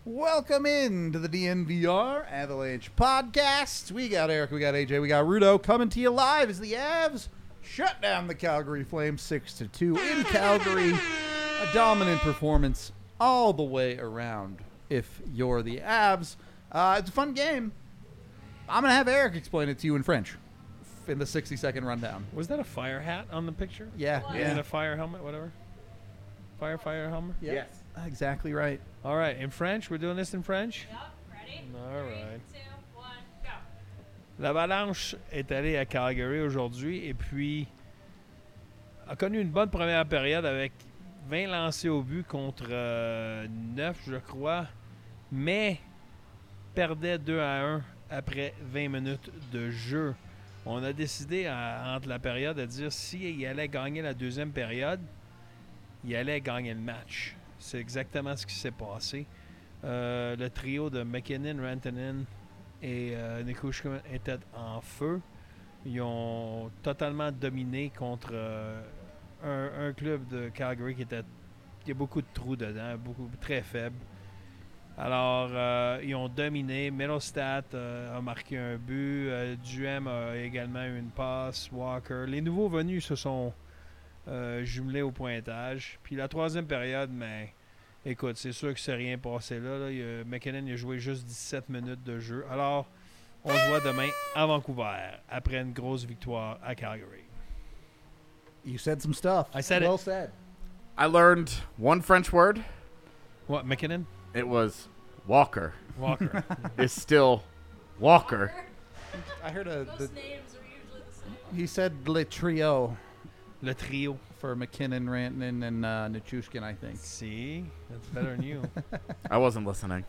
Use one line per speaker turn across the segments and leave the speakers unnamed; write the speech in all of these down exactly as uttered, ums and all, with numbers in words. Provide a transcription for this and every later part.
Welcome in to the D N V R Avalanche podcast. We got Eric, we got A J, we got Rudo coming to you live as the Avs shut down the Calgary Flames six to two in Calgary. A dominant performance all the way around if you're the Avs. Uh, it's a fun game. I'm going to have Eric explain it to you in French in the sixty second rundown.
Was that a fire hat on the picture?
Yeah.
And
yeah.
a fire helmet, whatever? Fire, fire helmet?
Yeah.
Yes.
Exactly right.
All right, in French? We're doing this in French?
Yep, ready?
All
Three,
right.
two, one, go.
L'Avalanche est allée à Calgary aujourd'hui et puis a connu une bonne première période avec vingt lancés au but contre euh, neuf, je crois, mais perdait deux à un après vingt minutes de jeu. On a décidé à- entre la période de dire s'il allait gagner la deuxième période, il allait gagner le match. C'est exactement ce qui s'est passé. Euh, le trio de McKinnon, Rantanen et euh, Nichushkin était en feu. Ils ont totalement dominé contre euh, un, un club de Calgary qui était qui a beaucoup de trous dedans, beaucoup très faible. Alors, euh, ils ont dominé. Middlestat euh, a marqué un but. Euh, Duhem a également eu une passe. Walker. Les nouveaux venus se sont euh, jumelés au pointage. Puis la troisième période, mais écoute, c'est sûr que c'est rien passé là. là. Il a- McKinnon il a joué juste dix-sept minutes de jeu. Alors, on se voit demain à Vancouver après une grosse victoire à Calgary.
You said some stuff.
I said
well
it.
said.
I learned one French word.
What, McKinnon?
It was Walker.
Walker.
Is still Walker.
I heard a.
Most
The,
names are usually the same.
he said le trio
Le trio.
for McKinnon, Rantanen, and uh, Nichushkin, I think.
See? That's better than you.
I wasn't listening.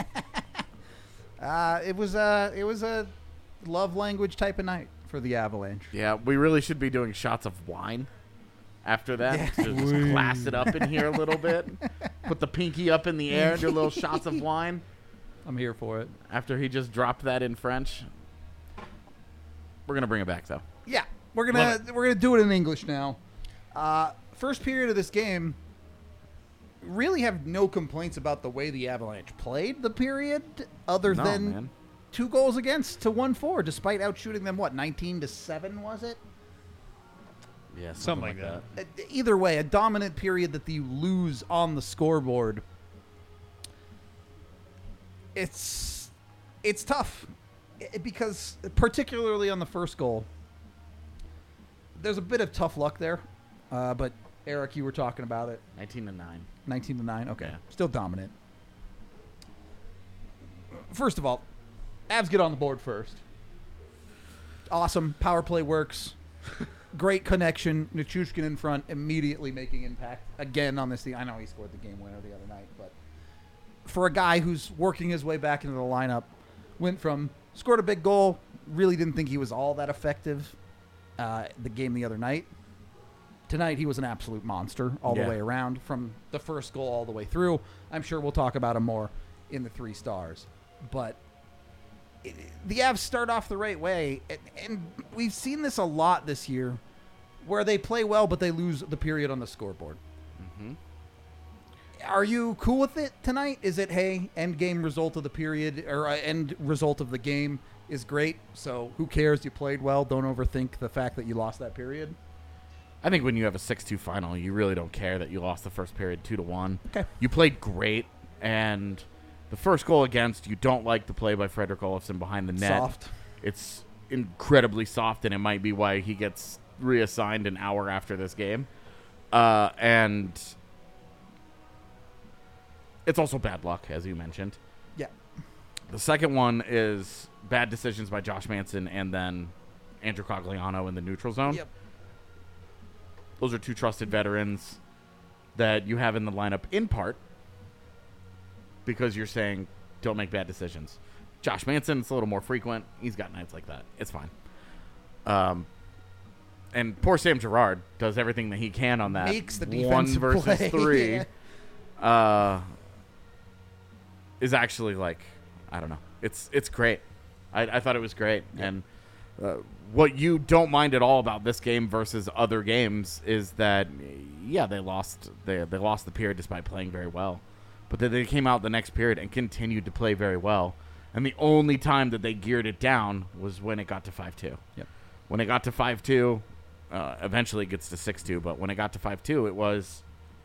Uh, it was a it was a love language type of night for the Avalanche.
Yeah, we really should be doing shots of wine after that.
Yeah.
To just class it up in here a little bit. Put the pinky up in the air, do little shots of wine
I'm here for it.
after he just dropped that in French. We're gonna bring it back though.
Yeah, we're gonna
Love
we're gonna do it in English now. Uh, first period of this game, really have no complaints about the way the Avalanche played the period, other
No,
than
man.
two goals against to one four, despite outshooting them. What nineteen to seven was it?
Yeah,
Something like that.
Uh, Either way, a dominant period that you lose on the scoreboard. It's it's tough I- because particularly on the first goal, there's a bit of tough luck there. Uh, but Eric, you were talking about it.
nineteen to nine.
nineteen to nine. Okay,
Yeah.
still dominant. First of all, Avs get on the board first. Awesome power play works. Great connection. Nichushkin in front, immediately making impact again on this thing. I know he scored the game winner the other night, but for a guy who's working his way back into the lineup, went from scored a big goal, really didn't think he was all that effective uh, the game the other night. Tonight he was an absolute monster all
Yeah.
the way around, from the first goal all the way through. I'm sure we'll talk about him more in the three stars, but it, the Avs start off the right way, and, and we've seen this a lot this year, where they play well but they lose the period on the scoreboard.
Mm-hmm.
Are you cool with it tonight? Is it, hey, end game result of the period, or uh, end result of the game is great, so who cares? You played well. Don't overthink the fact that you lost that period.
I think when you have a six two final, you really don't care that you lost the first period two to one.
Okay.
You played great, and the first goal against, you don't like the play by Frederick Olofsson behind the net.
Soft.
It's incredibly soft, and it might be why he gets reassigned an hour after this game. Uh, and it's also bad luck, as you mentioned.
Yeah.
The second one is bad decisions by Josh Manson and then Andrew Cogliano in the neutral zone.
Yep.
Those are two trusted veterans that you have in the lineup in part because you're saying don't make bad decisions. Josh Manson, it's a little more frequent. He's got nights like that. It's fine. Um, and poor Sam Girard does everything that he can on that.
Makes the
one
defensive
versus
play.
three.
Yeah.
Uh, is actually like, I don't know. It's it's great. I, I thought it was great.
Yeah.
And uh, what you don't mind at all about this game versus other games is that, yeah, they lost they they lost the period despite playing very well. but then they came out the next period and continued to play very well. And the only time that they geared it down was when it got to five two.
Yep.
When it got to five two, uh, eventually it gets to six two, but when it got to five two, it was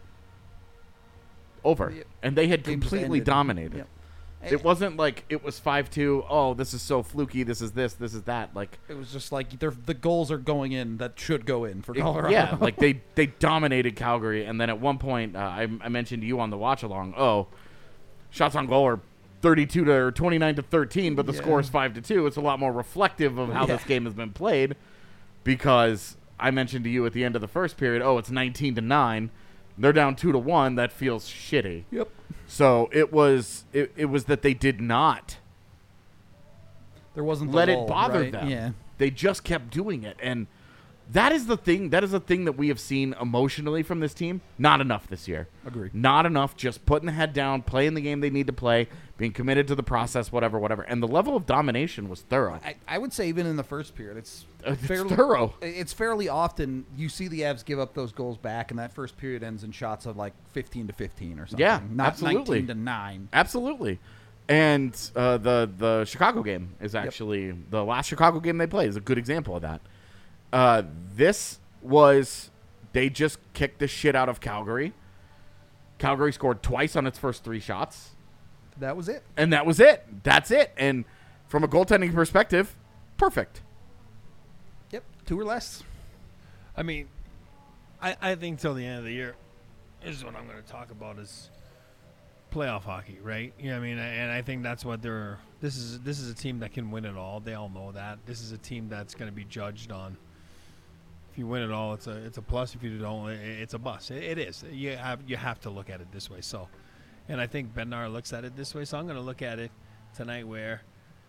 over.
Yep.
And they had
Game just
completely
ended.
dominated.
Yep.
It wasn't like it was five two, oh, this is so fluky, this is this, this is that. Like,
It was just like they're, the goals are going in that should go in for
it-
Colorado.
yeah, like they, they dominated Calgary. And then at one point, uh, I, I mentioned to you on the watch along, oh, shots on goal are thirty-two to or twenty-nine to thirteen, but the
Yeah.
score is five to two. It's a lot more reflective of how
Yeah.
this game has been played, because I mentioned to you at the end of the first period, oh, it's nineteen to nine. They're down two to one. That feels shitty.
Yep.
So it was it, it was that they did not
There wasn't the
let it
lull,
bother
right?
them.
Yeah.
They just kept doing it, and that is the thing. That is the thing that we have seen emotionally from this team. Not enough this year.
Agreed.
Not enough. Just putting the head down, playing the game they need to play, being committed to the process, whatever, whatever. And the level of domination was thorough.
I, I would say even in the first period, it's
Uh, It's
fairly
thorough.
It's fairly often you see the Avs give up those goals back, and that first period ends in shots of like fifteen to fifteen or something.
Yeah,
not
absolutely.
nineteen to nine.
Absolutely. And uh, the the Chicago game is actually the last Chicago game they played is a good example of that. Uh, this was they just kicked the shit out of Calgary. Calgary scored twice on its first three shots,
That was it.
and that was it. That's it. And from a goaltending perspective, perfect.
Yep, two or less.
I mean, I, I think till the end of the year, this is what I'm going to talk about is playoff hockey, right? You know what I mean? And I think that's what they're. This is this is a team that can win it all. They all know that. This is a team that's going to be judged on. If you win it all, it's a it's a plus. If you don't, it, it's a bust. It, it is. You have you have to look at it this way. So, and I think Bednar looks at it this way. So I'm going to look at it tonight where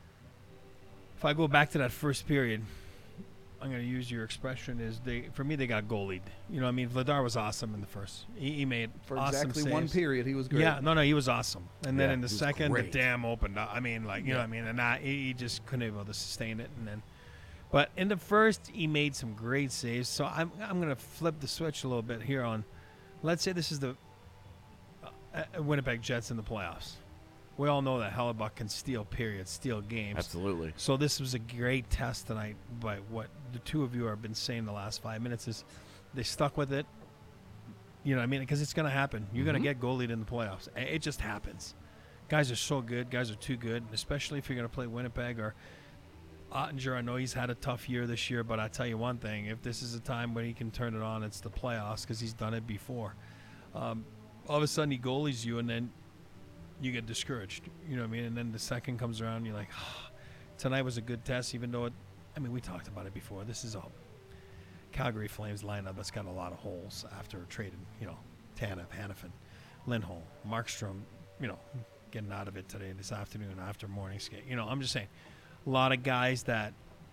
if I go back to that first period. I'm going to use your expression is they for me they got goalied. You know what I mean? Vladar was awesome in the first. He, he made
For
awesome
exactly
saves.
one period, he was great.
Yeah, no, no, he was awesome. And then
Yeah,
in the
he was
second,
great.
the dam opened up. I mean, like, you know what I mean? And I, he he just couldn't able to sustain it. And then, but in the first, he made some great saves. So I'm I'm going to flip the switch a little bit here on, let's say this is the uh, uh, Winnipeg Jets in the playoffs. We all know that Hellebuck can steal periods, steal games.
Absolutely.
So this was a great test tonight by what the two of you have been saying the last five minutes is they stuck with it. You know what I mean? Because it's going to happen. You're
Mhm.
going to get goalied in the playoffs. I- It just happens. Guys are so good. Guys are too good, and especially if you're going to play Winnipeg or Ottinger. I know he's had a tough year this year, but I tell you one thing. If this is a time when he can turn it on, it's the playoffs because he's done it before. Um, all of a sudden he goalies you, and then you get discouraged. You know what I mean? And then the second comes around, and you're like, oh, tonight was a good test, even though it, I mean, we talked about it before. This is a Calgary Flames lineup that's got a lot of holes after trading, you know, Tanev, Hannafin, Lindholm, Markstrom, you know, getting out of it today, this afternoon, after morning skate. You know, I'm just saying, a lot of guys that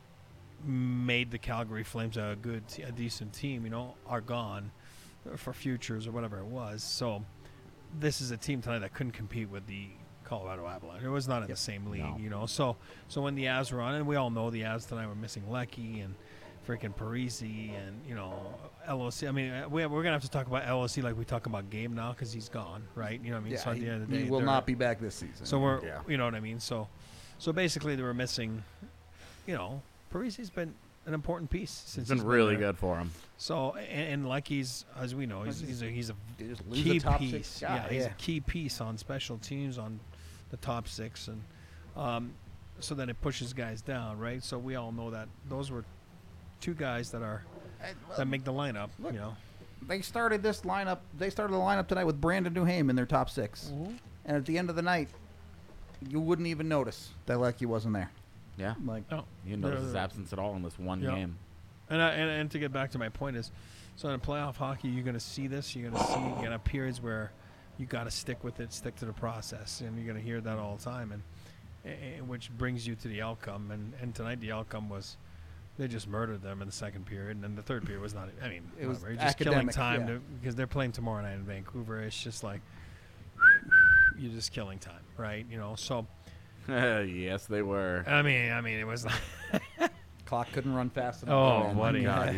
made the Calgary Flames a good, a decent team, you know, are gone for futures or whatever it was. So this is a team tonight that couldn't compete with the Colorado Avalanche. It was not in the same league,
No.
you know. So so when the Avs were on, and we all know the Avs tonight were missing Leckie and freaking Parisi and, you know, L O C. I mean, uh, we, we're going to have to talk about L O C like we talk about Game now because he's gone, right? You know what I mean?
Yeah,
so at
he,
the end of the
he
day,
will
they're-
not be back this season.
So we're,
Yeah.
you know what I mean? So so basically they were missing, you know, Parisi's been an important piece since
It's been
he's
really
there.
good for him.
So and, and Leckie's, as we know, he's he's a, he's a
They just lose
key
a top
piece.
six guy.
Yeah, he's
yeah.
a key piece on special teams on the top six, and um, so then it pushes guys down, right? So we all know that those were two guys that are
And, well,
that make the lineup.
look,
you know,
they started this lineup. They started the lineup tonight with Brandon Duhaime in their top 6 and at the end of the night, you wouldn't even notice that Leckie wasn't there.
Yeah.
Like,
no.
You didn't notice
They're-
his absence at all in this one
Yeah.
game.
And, I, and and to get back to my point is, so in playoff hockey, you're going to see this. You're going to see you're gonna have periods where you got to stick with it, stick to the process, and you're going to hear that all the time, and, and which brings you to the outcome. And, and tonight the outcome was they just murdered them in the second period, and then the third period was not. I mean,
It was
whatever, you're just killing
academic,
time
yeah.
to, because they're playing tomorrow night in Vancouver. It's just like you're just killing time, right? You know, so
Yes, they were.
I mean, I mean, it was like.
clock couldn't run fast enough.
Oh,
man.
what a
God.
Yeah.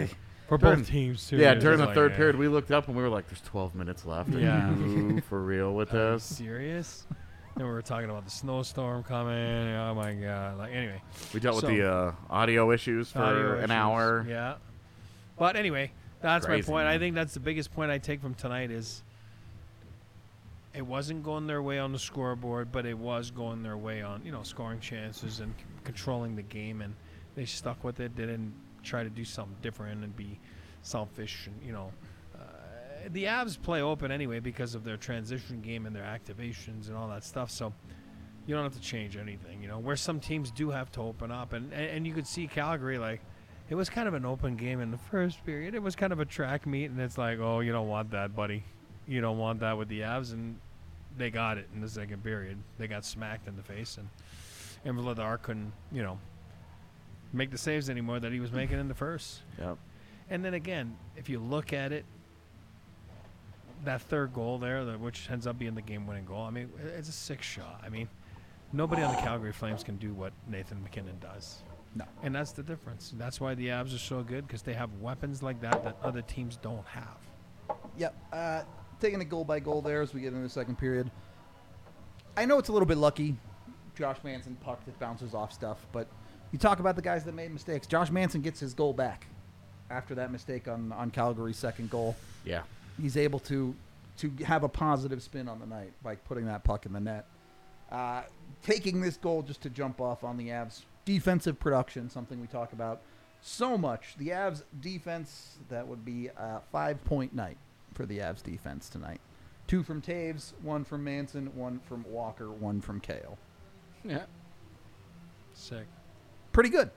For
During-
both teams, too.
Yeah,
It's
during the
just
third
like,
period, we looked up and we were like, "There's twelve minutes left." Are
Yeah.
you for real with
Are you
this?
serious? Then we were talking about the snowstorm coming. Oh my god! Like anyway,
We dealt
So-
with the uh, audio issues for
audio
an
issues.
hour.
Yeah. But anyway, that's
Crazy,
my point. I
man.
think that's the biggest point I take from tonight is it wasn't going their way on the scoreboard, but it was going their way on, you know, scoring chances and c- controlling the game, and they stuck with it. They didn't try to do something different and be selfish, and you know. Uh, the Avs play open anyway because of their transition game and their activations and all that stuff. So you don't have to change anything, you know. Where some teams do have to open up, and and, and you could see Calgary, like, it was kind of an open game in the first period. It was kind of a track meet, and it's like, oh, you don't want that, buddy. You don't want that with the Avs, and they got it in the second period. They got smacked in the face, and and Vladar couldn't, you know, make the saves anymore that he was making in the first.
Yep.
And then again, if you look at it, that third goal there, the, which ends up being the game-winning goal, I mean, it's a six shot. I mean, nobody on the Calgary Flames can do what Nathan McKinnon does.
No.
And that's the difference. That's why the Avs are so good, because they have weapons like that that other teams don't have.
Yep. Uh, taking it goal by goal there as we get into the second period. I know it's a little bit lucky. Josh Manson puck that bounces off stuff, but you talk about the guys that made mistakes. Josh Manson gets his goal back after that mistake on, on Calgary's second goal.
Yeah.
He's able to to have a positive spin on the night by putting that puck in the net. Uh, taking this goal just to jump off on the Avs' defensive production, something we talk about so much. The Avs' defense, that would be a five-point night for the Avs' defense tonight. Two from Taves, one from Manson, one from Walker, one from Kale.
Yeah.
Sick.
Pretty good.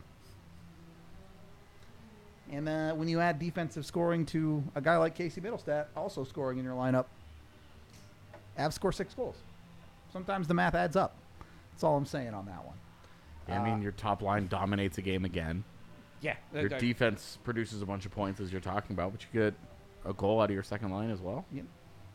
And uh, when you add defensive scoring to a guy like Casey Middlestat also scoring in your lineup, Avs score six goals. Sometimes the math adds up. That's all I'm saying on that one.
Yeah, I mean, your top line dominates a game again.
Yeah.
Your defense produces a bunch of points, as you're talking about, but you get a goal out of your second line as well.
Yep.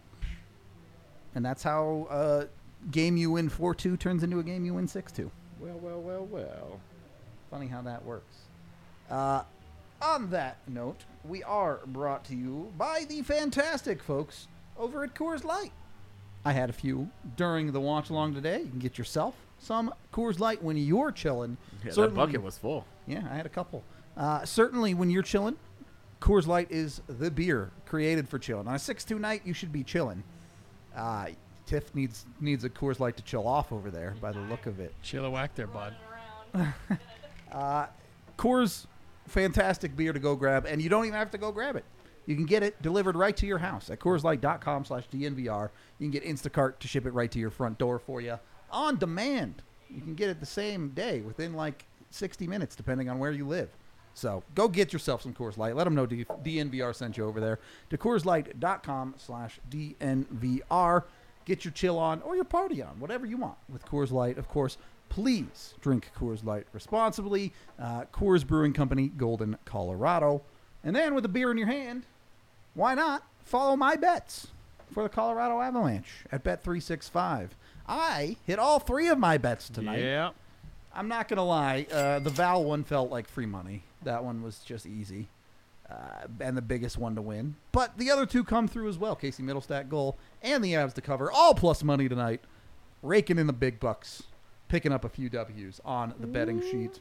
And that's how a game you win four two turns into a game you win six two.
Well, well, well, well.
Funny how that works. Uh, on that note, we are brought to you by the fantastic folks over at Coors Light. I had a few during the watch along today. You can get yourself some Coors Light when you're chilling.
Yeah, that
Certainly-
bucket was full.
Yeah, I had a couple. Uh, certainly, when you're chilling, Coors Light is the beer created for chilling. On a six two night, you should be chilling. Uh, Tiff needs needs a Coors Light to chill off over there by the look of it.
Chilliwack there, bud.
Running around.
Uh, Coors, fantastic beer to go grab, and you don't even have to go grab it. You can get it delivered right to your house at CoorsLight.com slash DNVR. You can get Instacart to ship it right to your front door for you on demand. You can get it the same day within like sixty minutes, depending on where you live. So go get yourself some Coors Light. Let them know D- DNVR sent you over there to CoorsLight.com slash DNVR. Get your chill on or your party on, whatever you want with Coors Light. Of course, please drink Coors Light responsibly. Uh, Coors Brewing Company, Golden, Colorado. And then with a beer in your hand, why not follow my bets for the Colorado Avalanche at Bet three sixty-five. I hit all three of my bets tonight.
Yeah.
I'm not going to lie. Uh, the Val one felt like free money. That one was just easy. Uh, and the biggest one to win. But the other two come through as well. Casey Middlestat goal and the Avs to cover. All plus money tonight. Raking in the big bucks. Picking up a few W's on the betting sheet.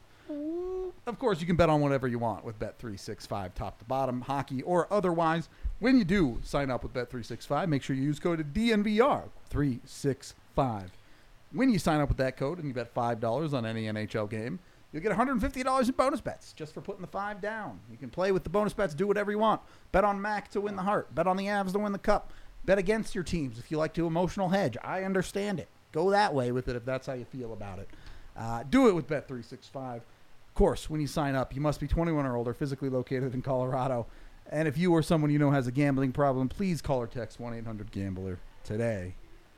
Of course, you can bet on whatever you want with Bet three sixty-five, top to bottom, hockey, or otherwise. When you do sign up with Bet three sixty-five, make sure you use code D N V R three sixty-five. When you sign up with that code and you bet five dollars on any N H L game, you'll get one hundred fifty dollars in bonus bets just for putting the five down. You can play with the bonus bets, do whatever you want. Bet on Mac to win the Hart. Bet on the Avs to win the Cup. Bet against your teams if you like to emotional hedge. I understand it. Go that way with it if that's how you feel about it. Uh, do it with Bet three sixty-five. Of course, when you sign up, you must be twenty-one or older, physically located in Colorado. And if you or someone you know has a gambling problem, please call or text one eight hundred gambler today.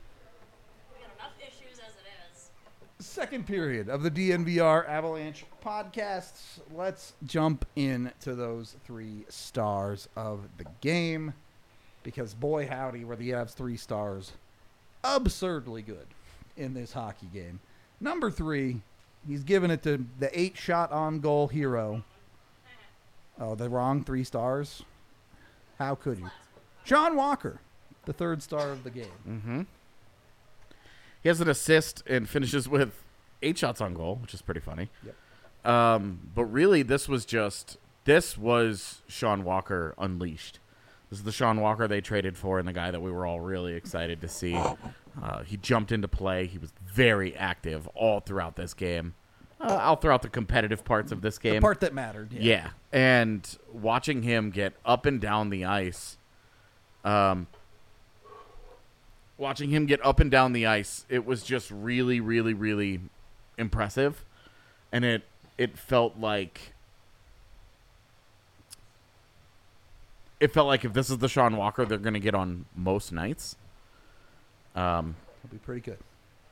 We got enough issues as it is.
Second period of the D N V R Avalanche podcasts. Let's jump into those three stars of the game. Because boy howdy were the Avs three stars absurdly good in this hockey game. Number three, he's giving it to the eight shot on goal hero Oh, the wrong three stars? How could you? Sean Walker, the third star of the game.
Mm-hmm. He has an assist and finishes with eight shots on goal, which is pretty funny.
Yep.
Um, but really, this was just this was Sean Walker unleashed. This is the Sean Walker they traded for, and the guy that we were all really excited to see. Uh, he jumped into play. He was very active all throughout this game, uh, all throughout the competitive parts of this game.
The part that mattered. Yeah.
Yeah, and watching him get up and down the ice, um, watching him get up and down the ice, it was just really, really, really impressive, and it it felt like it felt like if this is the Sean Walker they're going to get on most nights. Um,
It'll be pretty good.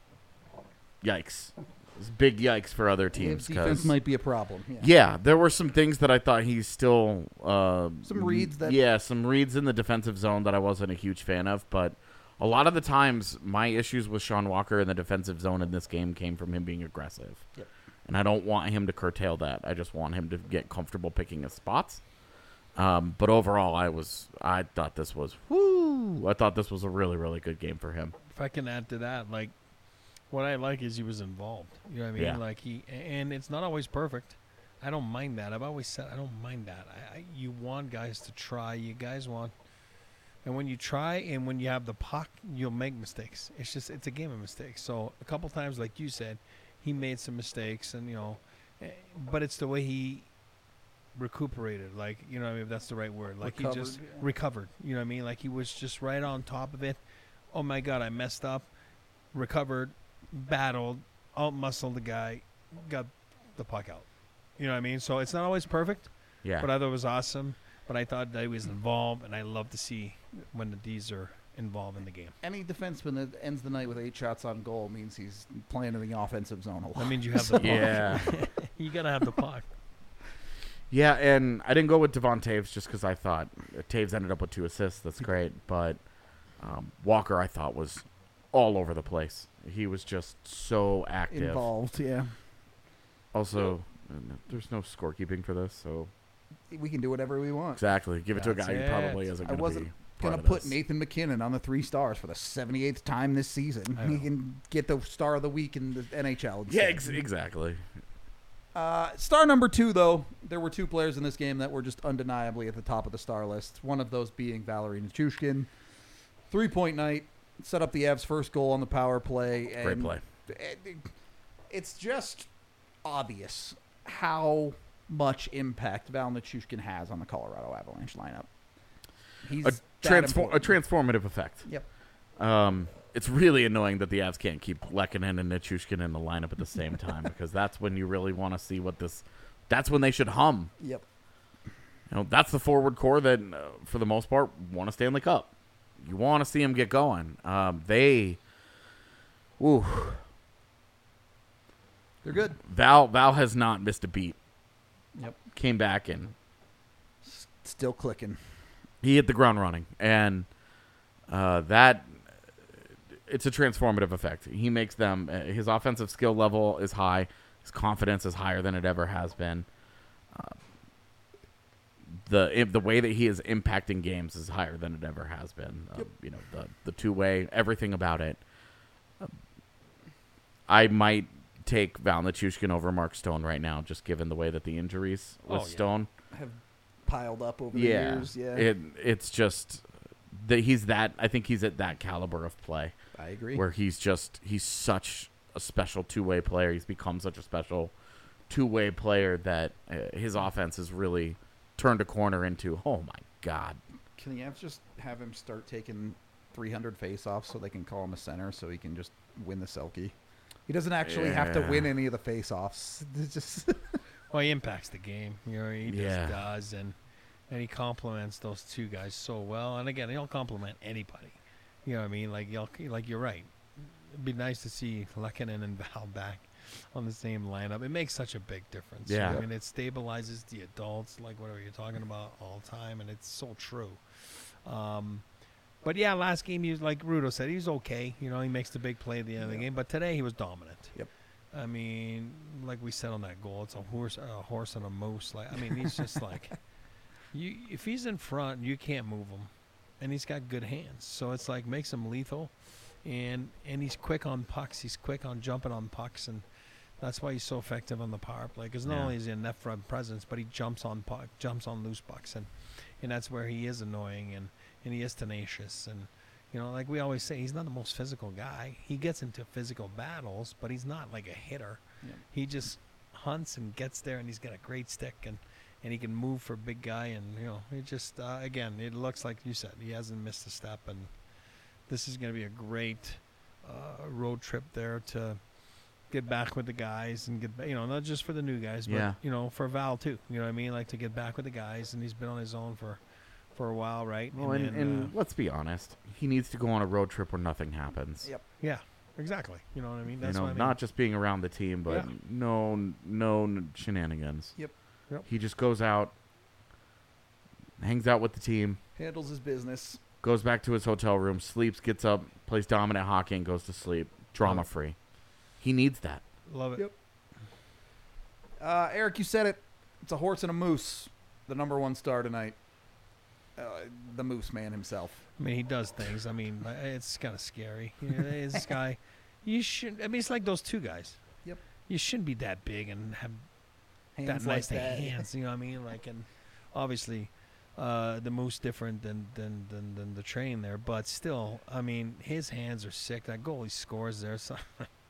Yikes! It's big yikes for other
Teams
teams.
defense
'cause-
might be a problem. Yeah.
Yeah, there were some things that I thought he's still uh,
Some reads that-
yeah, some reads in the defensive zone that I wasn't a huge fan of. But a lot of the times, my issues with Sean Walker in the defensive zone in this game came from him being aggressive,
Yep.
and I don't want him to curtail that. I just want him to get comfortable picking his spots. Um, but overall, I was I thought this was whoo. I thought this was a really really good game for him.
If I can add to that, like, what I like is he was involved. You know what I mean?
Yeah.
Like he, and it's not always perfect. I don't mind that. I've always said I don't mind that. I, I you want guys to try. You guys want, and when you try and when you have the puck, you'll make mistakes. It's just it's a game of mistakes. So a couple times, like you said, he made some mistakes, and you know, eh, but it's the way he recuperated. Like you know, what I mean, if that's the right word. Like
Recovered,
he just
yeah.
recovered. You know what I mean? Like he was just right on top of it. Oh my God, I messed up. Recovered, battled, out muscled the guy, got the puck out. You know what I mean? So it's not always perfect,
Yeah,
but I thought it was awesome. But I thought that he was involved, and I love to see when the D's are involved in the game.
Any defenseman that ends the night with eight shots on goal means he's playing in the offensive zone a lot.
That means you have the puck.
yeah.
You got to have the puck.
Yeah, and I didn't go with Devon Taves just because I thought uh, Taves ended up with two assists. That's great. But um, Walker, I thought, was all over the place. He was just so active.
Involved, yeah.
Also, uh, there's no scorekeeping for this, so
We can do whatever we want.
exactly. Give it to a
That's
guy who
it.
probably isn't
I
going to
wasn't
be part
Gonna
of
put
this.
Nathan McKinnon on the three stars for the seventy-eighth time this season.
I
He
know.
can get the star of the week in the N H L.
Yeah,
instead.
ex- exactly.
Uh, star number two, though, there were two players in this game that were just undeniably at the top of the star list. One of those being Valerie Nichushkin. Three-point night, set up the Avs' first goal on the power play. And
Great play.
it- It's just obvious how much impact Val Nichushkin has on the Colorado Avalanche lineup. He's
A,
that
transform- a
important.
transformative effect.
Yep.
Um, it's really annoying that the Avs can't keep Lehkonen and Nichushkin in the lineup at the same time because that's when you really want to see what this. That's when they should hum.
Yep.
You know, that's the forward core that, uh, for the most part, won a Stanley Cup. You want to see them get going. Um, they, ooh,
They're good.
Val Val has not missed a beat.
Yep.
Came back and
S- Still clicking.
he hit the ground running, and uh, that it's a transformative effect. He makes them. Uh, his offensive skill level is high. His confidence is higher than it ever has been. Uh, the the way that he is impacting games is higher than it ever has been. Uh,
Yep.
You know, the the two way, everything about it. Uh, I might take Val Nichushkin over Mark Stone right now, just given the way that the injuries with
Oh, yeah.
Stone.
Have piled up over the
Yeah,
years. Yeah.
It it's just that he's that. I think he's at that caliber of play
I agree.
where he's just he's such a special two way player. He's become such a special two way player that uh, his offense has really turned a corner into. Oh my God!
Can the Avs just have him start taking three hundred face-offs so they can call him a center so he can just win the Selkie? He doesn't actually have to
Yeah.
win any of the face-offs. It's just
Well, he impacts the game. You know, he
Yeah.
just does, and and he complements those two guys so well. And again, he'll compliment anybody. You know what I mean? Like you'll, like you're right. It'd be nice to see Lehkonen and Val back on the same lineup. It makes such a big difference.
Yeah.
I mean, it stabilizes the adults, like whatever you're talking about, all the time, and it's so true. Um, but yeah, last game he was like Rudo said, he was okay. You know, he makes the big play at the end of the
Yeah.
game. But today he was dominant.
Yep.
I mean, like we said on that goal, it's a horse, a horse and a moose. Like, I mean, he's just like, You if he's in front, you can't move him, and he's got good hands. So it's like makes him lethal, and and he's quick on pucks. He's quick on jumping on pucks, and that's why he's so effective on the power play. Because not
Yeah.
only is he a net front presence, but he jumps on puck, jumps on loose pucks, and and that's where he is annoying, and and he is tenacious, and you know, like we always say, he's not the most physical guy. He gets into physical battles, but he's not like a hitter.
Yeah.
He just hunts and gets there, and he's got a great stick, and, and he can move for a big guy. And, you know, it just, uh, again, it looks like you said, he hasn't missed a step. And this is going to be a great uh, road trip there to get back with the guys and get, ba- you know, not just for the new guys, but,
Yeah.
you know, for Val too. You know what I mean? Like to get back with the guys, and he's been on his own for, for a while, right?
Well, and,
then,
and
uh,
let's be honest, he needs to go on a road trip where nothing happens.
Yep.
yeah, exactly. You know what I mean? That's
you know,
what I mean.
not just being around the team, but
Yeah.
no, no n- shenanigans.
Yep.
Yep.
He just goes out, hangs out with the team,
Handles his business.
goes back to his hotel room, sleeps, gets up, plays dominant hockey, and goes to sleep. Drama free. He needs that.
Love it.
Yep. Uh, Eric, you said it. It's a horse and a moose. The number one star tonight. Uh, the Moose Man himself.
I mean, he does things. I mean, uh, it's kind of scary. You know, this guy, you should. I mean, it's like those two guys.
Yep.
You shouldn't be that big and have
Hands
that
like
nice
that.
hands. You know what I mean? Like, and obviously, uh, the Moose different than, than than than the train there, but still, I mean, his hands are sick. That goal he scores there. So,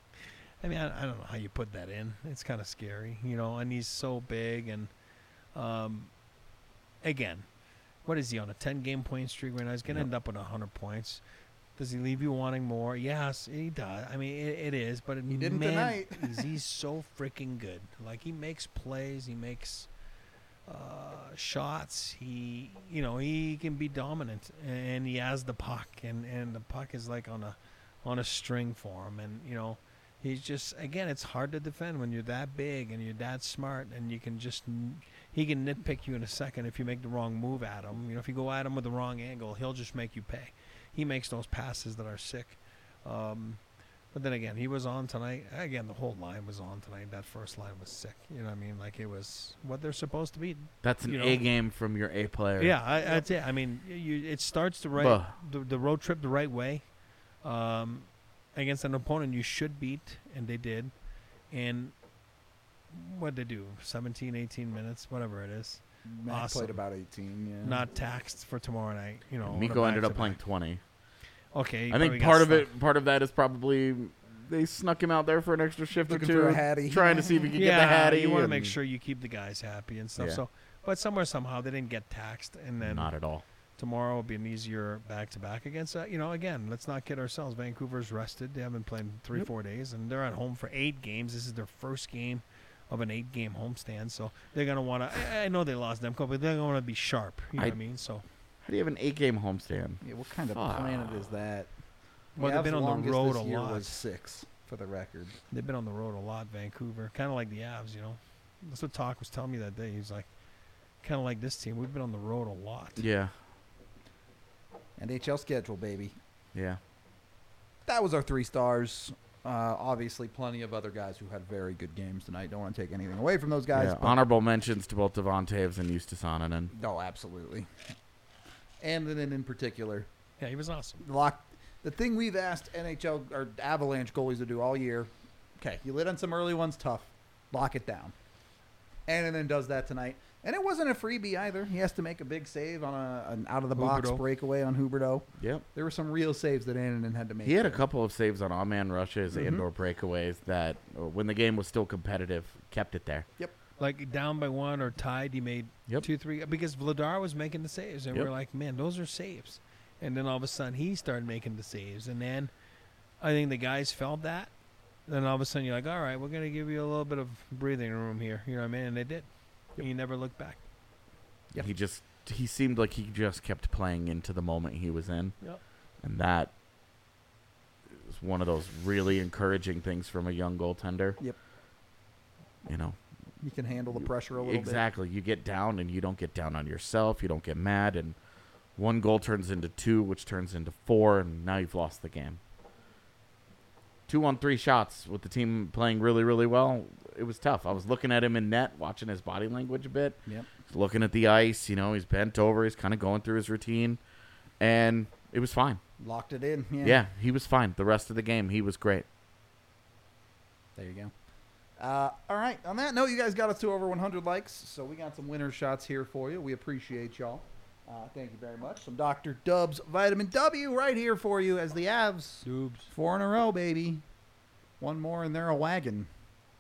I mean, I, I don't know how you put that in. It's kind of scary, you know. And he's so big, and um, again. What is he on a ten-game point streak right now? He's going to
Yep.
end up with one hundred points. Does he leave you wanting more? Yes, he does. I mean, it, it is. But
He didn't
man,
tonight.
he's, he's so freaking good. Like, he makes plays. He makes uh, shots. He, you know, he can be dominant. And he has the puck. And, and the puck is, like, on a on a string for him. And, you know, he's just, again, it's hard to defend when you're that big and you're that smart. And you can just... He can nitpick you in a second if you make the wrong move at him. You know, if you go at him with the wrong angle, he'll just make you pay. He makes those passes that are sick. Um, but then again, he was on tonight. Again, the whole line was on tonight. That first line was sick. You know what I mean? Like, it was what they're supposed to be.
That's an
You know.
A game from your A player.
Yeah, I, that's it. I mean, you, it starts the right,
Buh.
the, the road trip the right way um, against an opponent you should beat, and they did. And what'd they do? seventeen, eighteen minutes, whatever it is.
Matt
Awesome.
played about eighteen. Yeah.
Not taxed for tomorrow night. You know, on a
Miko ended up
back-to-back.
playing twenty.
Okay, he
I
probably
think
got
part of
stuck.
it, part of that is probably they snuck him out there for an extra shift
Looking
or two,
for a hattie.
trying to see if he could
yeah,
get the hattie.
you want to
and
make sure you keep the guys happy and stuff.
Yeah.
So, but somewhere somehow they didn't get taxed, and then
Not at all.
tomorrow will be an easier back to back against. Uh, you know, again, let's not kid ourselves. Vancouver's rested; they haven't played in three,
Yep.
four days, and they're at home for eight games. This is their first game of an eight-game homestand, so they're gonna want to. I, I know they lost Demko, but they're gonna want to be sharp. You know
I-
what I mean? So,
How do you have an eight-game homestand?
Yeah, what kind of
Fuck.
planet is that?
well, they've
Avs'
been on the
longest
road
this
a
year
lot.
was six, for the record.
They've been on the road a lot, Vancouver. Kind of like the Avs, you know. That's what Talk was telling me that day. He's like, kind of like this team. We've been on the road a lot.
Yeah,
N H L schedule, baby.
yeah.
That was our three stars. Uh, obviously, plenty of other guys who had very good games tonight. Don't want to take anything away from those guys.
yeah.
but-
Honorable mentions to both Devon Taves and Eustace Onanen.
No, absolutely. And then in particular,
Yeah, he was awesome.
lock. The thing we've asked N H L or Avalanche goalies to do all year. Okay, you lit on some early ones, tough. Lock it down. And then does that tonight. And it wasn't a freebie either. He has to make a big save on a, an out of the box
Huberdeau.
breakaway on Huberto.
Yep.
There were some real saves that Annanen had to make.
He had a
there.
couple of saves on on-man rushes,
Mhm.
indoor breakaways that, uh, when the game was still competitive, kept it there.
Like down by one or tied, he made
Yep.
two, three. Because Vladar was making the saves, and
Yep.
we're like, man, those are saves. And then all of a sudden, he started making the saves, and then I think the guys felt that. Then all of a sudden, you're like, all right, we're gonna give you a little bit of breathing room here. You know what I mean? And they did.
Yep.
He never looked back.
Yep.
He just he seemed like he just kept playing into the moment he was in,
Yep.
and that is one of those really encouraging things from a young goaltender.
Yep.
You know,
You can handle the pressure a little
exactly. You get down, and you don't get down on yourself. You don't get mad, and one goal turns into two, which turns into four, and now you've lost the game. Two on three shots with the team playing really, really well. It was tough. I was looking at him in net, watching his body language a bit.
bit. Yep.
He's looking at the ice. You know, he's bent over. He's kind of going through his routine. And it was fine.
Locked it in. Yeah.
Yeah, he was fine. The rest of the game, he was great.
There you go. Uh, all right. On that note, you guys got us to over one hundred likes, so we got some winner shots here for you. We appreciate y'all. Uh, thank you very much. Some Doctor Dubs Vitamin W right here for you as the Avs.
Dubs.
Four in a row, baby. One more and they're a wagon.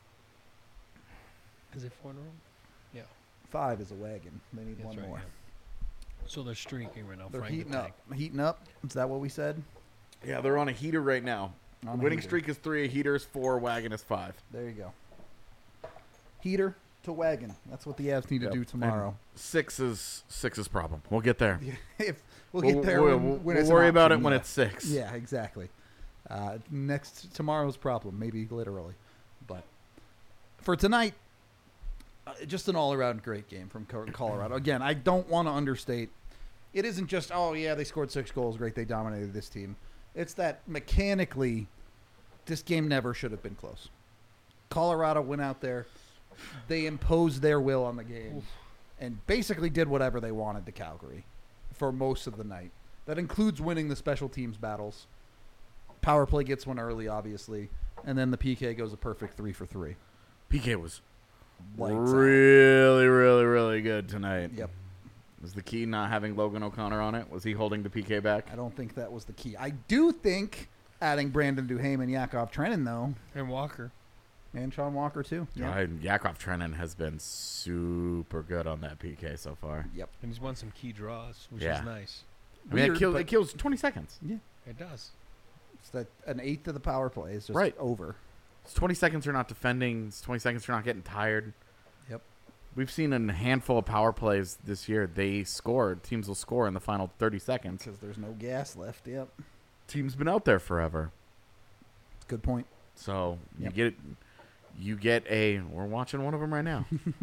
Is it four in a row? Yeah.
Five is a wagon. They need
That's
one
right,
more.
yeah. So they're streaking right now.
They're
Frank the
heating up.
Tank.
Heating up. Is that what we said?
Yeah, they're on a heater right now.
On a
Winning
heater.
streak is three. A heater is four. Wagon is five.
There you go. Heater to wagon. That's what the Avs need
Yep.
to do tomorrow.
And six is six is problem. We'll get there.
if we'll get there
We'll,
when,
we'll-
when
we'll
it's an
worry about it
option,
when
yeah.
it's six.
Yeah, exactly. Uh, next tomorrow's problem, maybe literally, but for tonight, uh, just an all-around great game from Co- Colorado. Again, I don't want to understate. It isn't just oh yeah they scored six goals, great they dominated this team. It's that mechanically, this game never should have been close. Colorado went out there, they imposed their will on the game, and basically did whatever they wanted to Calgary for most of the night. That includes winning the special teams battles. Power play gets one early, obviously, and then the P K goes a perfect three for three.
P K was
Lights out.
really, really, really good tonight.
Yep.
Was the key not having Logan O'Connor on it? Was he holding the P K back?
I don't think that was the key. I do think adding Brandon Duhaime and Yakov Trenin, though,
And Walker.
and Sean Walker, too.
Yeah. I, Yakov Trenin has been super good on that P K so far.
Yep.
And he's won some key draws, which
Yeah.
is nice.
I mean, it
Weird,
kills,
but
it kills twenty seconds.
It does.
it's that an eighth of the power play is just
Right.
over.
It's twenty seconds you're not defending. It's twenty seconds you're not getting tired.
Yep.
We've seen a handful of power plays this year. They score. Teams will score in the final thirty seconds.
Because there's no gas left. Yep.
Team's been out there forever.
Good point.
So
Yep.
you get you get a. We're watching one of them right now.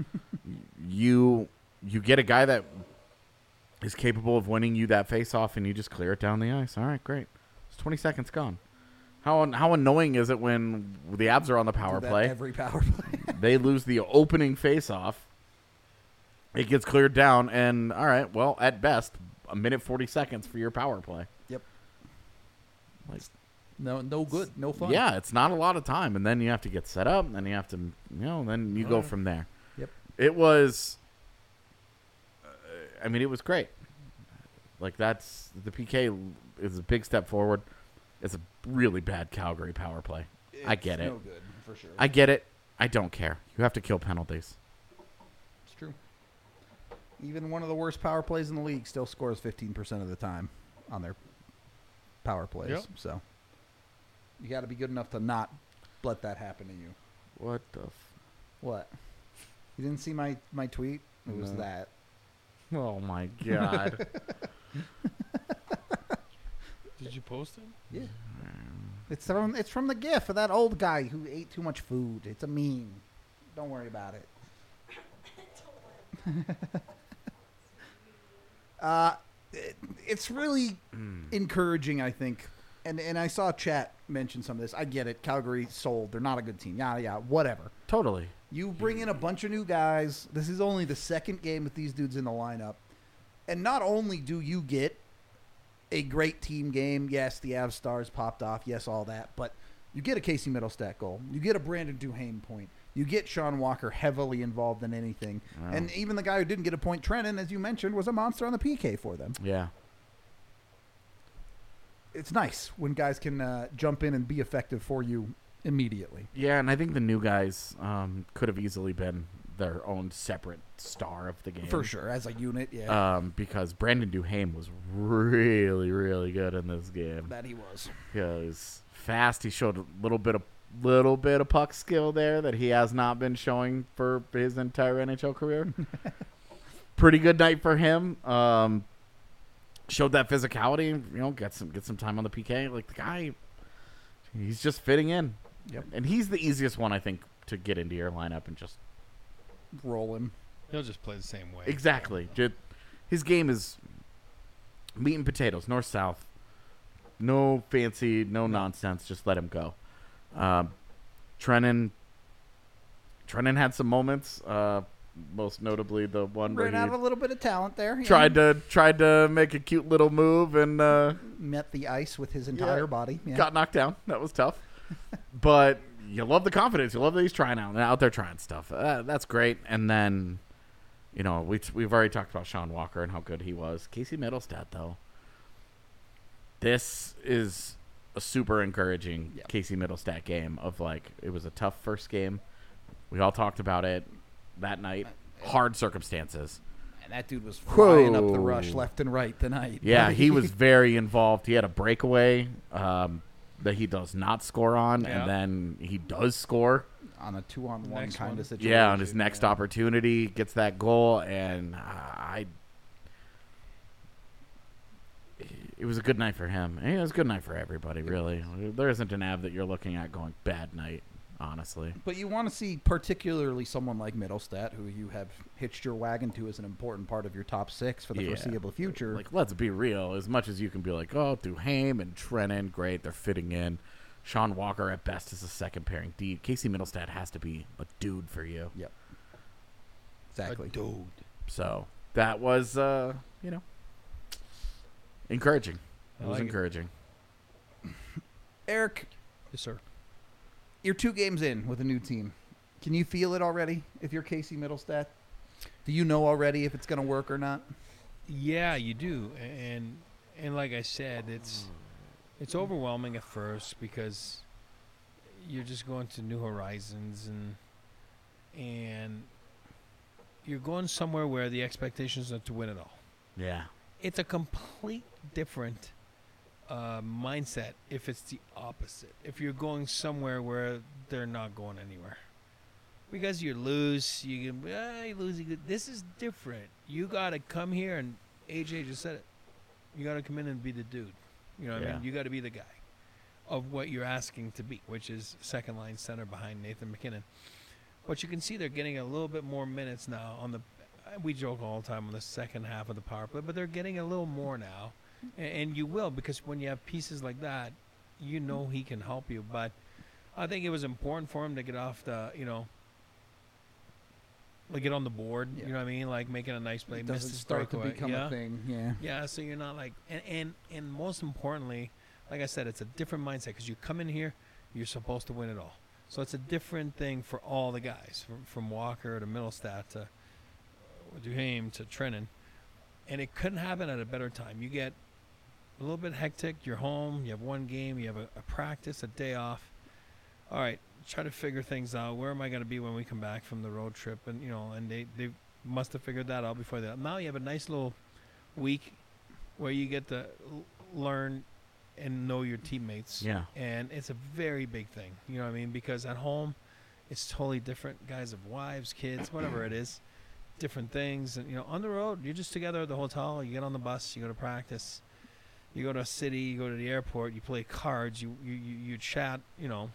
you you get a guy that is capable of winning you that face off, and you just clear it down the ice. All right, great. It's twenty seconds gone. How how annoying is it when the Avs are on the power
Do that
play?
Every power play.
They lose the opening face off. It gets cleared down, and all right, well, at best, a minute forty seconds for your power play.
Yep.
Like,
No, no good. No fun.
yeah, it's not a lot of time, and then you have to get set up, and then you have to, you know, then you go
Alright.
from there.
Yep.
It was. Uh, I mean, it was great. Like that's the P K is a big step forward. It's a really bad Calgary power play. I get
It's
it.
No good, for sure.
I get it. I don't care. You have to kill penalties.
It's true. Even one of the worst power plays in the league still scores fifteen percent of the time on their power plays.
Yep.
So you got to be good enough to not let that happen to you.
What the? F-
What? You didn't see my, my tweet? It was
No.
that.
oh my god.
Did you post it?
Yeah. It's from it's from the GIF of that old guy who ate too much food. It's a meme. Don't worry about it. uh, it, it's really encouraging, I think. And and I saw chat mention some of this. I get it. Calgary sold. They're not a good team. Yada yada. Whatever.
Totally.
You bring in a bunch of new guys. This is only the second game with these dudes in the lineup. And not only do you get a great team game, yes, the Avs stars popped off, yes, all that, but you get a Casey Middlestat goal. You get a Brandon Duhaime point. You get Sean Walker heavily involved in anything.
Wow.
And even the guy who didn't get a point, Trennan, as you mentioned, was a monster on the P K for them.
Yeah.
It's nice when guys can uh, jump in and be effective for you immediately.
Yeah, and I think the new guys um, could have easily been their own separate star of the game.
For sure, as a unit, yeah.
Um, because Brandon Duhaime was really, really good in this game.
that he was.
He was fast. He showed a little bit of little bit of puck skill there that he has not been showing for his entire N H L career. Pretty good night for him. Um, showed that physicality. You know, get some get some time on the P K. Like the guy, he's just fitting in.
Yep.
And he's the easiest one I think to get into your lineup and just
Roll him.
He'll just play the same way.
exactly. Just, his game is meat and potatoes, north south. No fancy, no nonsense. Just let him go. Um, Trennan. Trennan had some moments. Uh, most notably the one where
Ran
he
out of a little bit of talent there. yeah.
tried to tried to make a cute little move and uh,
Met the ice with his entire
Yeah.
body. Yeah.
got knocked down. That was tough. But you love the confidence. You love that he's trying out, out there trying stuff. Uh, that's great. And then, you know, we we've already talked about Sean Walker and how good he was. Casey Middlestat, though, this is a super encouraging
Yep.
Casey Middlestat game. Of like, it was a tough first game. We all talked about it that night. Hard circumstances.
And that dude was flying up the
Whoa.
rush left and right tonight.
Yeah, he was very involved. He had a breakaway um, that he does not score on,
Yeah.
and then he does score.
on a two-on-one
Next
kind
one.
of situation.
Yeah, on his next
yeah.
opportunity, gets that goal, and I. It was a good night for him. It was a good night for everybody, really. There isn't an Av that you're looking at going bad night, honestly.
But you want to see particularly someone like Middlestat, who you have hitched your wagon to as an important part of your top six for the
Yeah.
foreseeable future.
Like, let's be real. As much as you can be like, oh, Duhaime and Trennan, great, they're fitting in. Sean Walker at best is a second pairing D. Casey Middlestat has to be a dude for you.
Yep. Exactly.
A dude.
So that was, uh, you know, encouraging. It
I
was
like it.
encouraging.
Eric,
Yes, sir.
you're two games in with a new team. Can you feel it already if you're Casey Middlestat? Do you know already if it's going to work or not?
Yeah, you do, and and like I said, it's it's overwhelming at first because you're just going to new horizons and and you're going somewhere where the expectations are to win it all.
Yeah.
It's a complete different uh, mindset if it's the opposite. If you're going somewhere where they're not going anywhere. Because you lose, you can, ah, you lose. You get, this is different. You got to come here, and A J just said it. You got to come in and be the dude. You know what I
Yeah.
mean? You got to be the guy of what you're asking to be, which is second line center behind Nathan McKinnon. But you can see they're getting a little bit more minutes now on the. We joke all the time on the second half of the power play, but they're getting a little more now, and, and you will because when you have pieces like that, you know he can help you. But I think it was important for him to get off the, you know, like get on the board.
Yeah.
You know what I mean? Like making a nice play,
It
missed
doesn't
his
start to
breakaway.
become
yeah.
a thing. Yeah.
Yeah, so you're not like, and and, and most importantly, like I said, it's a different mindset because you come in here, you're supposed to win it all. So it's a different thing for all the guys, from, from Walker to Middlestat to Duhaime to Trennan, and it couldn't happen at a better time. You get a little bit hectic. You're home. You have one game. You have a, a practice, a day off. All right, try to figure things out. Where am I going to be when we come back from the road trip? And you know, and they they must have figured that out before that. Now you have a nice little week where you get to l- learn and know your teammates.
Yeah.
And it's a very big thing. You know what I mean? Because at home, it's totally different. Guys have wives, kids, whatever it is, different things. And, you know, on the road, you're just together at the hotel. You get on the bus, you go to practice. You go to a city, you go to the airport, you play cards, you, you, you, you chat, you know,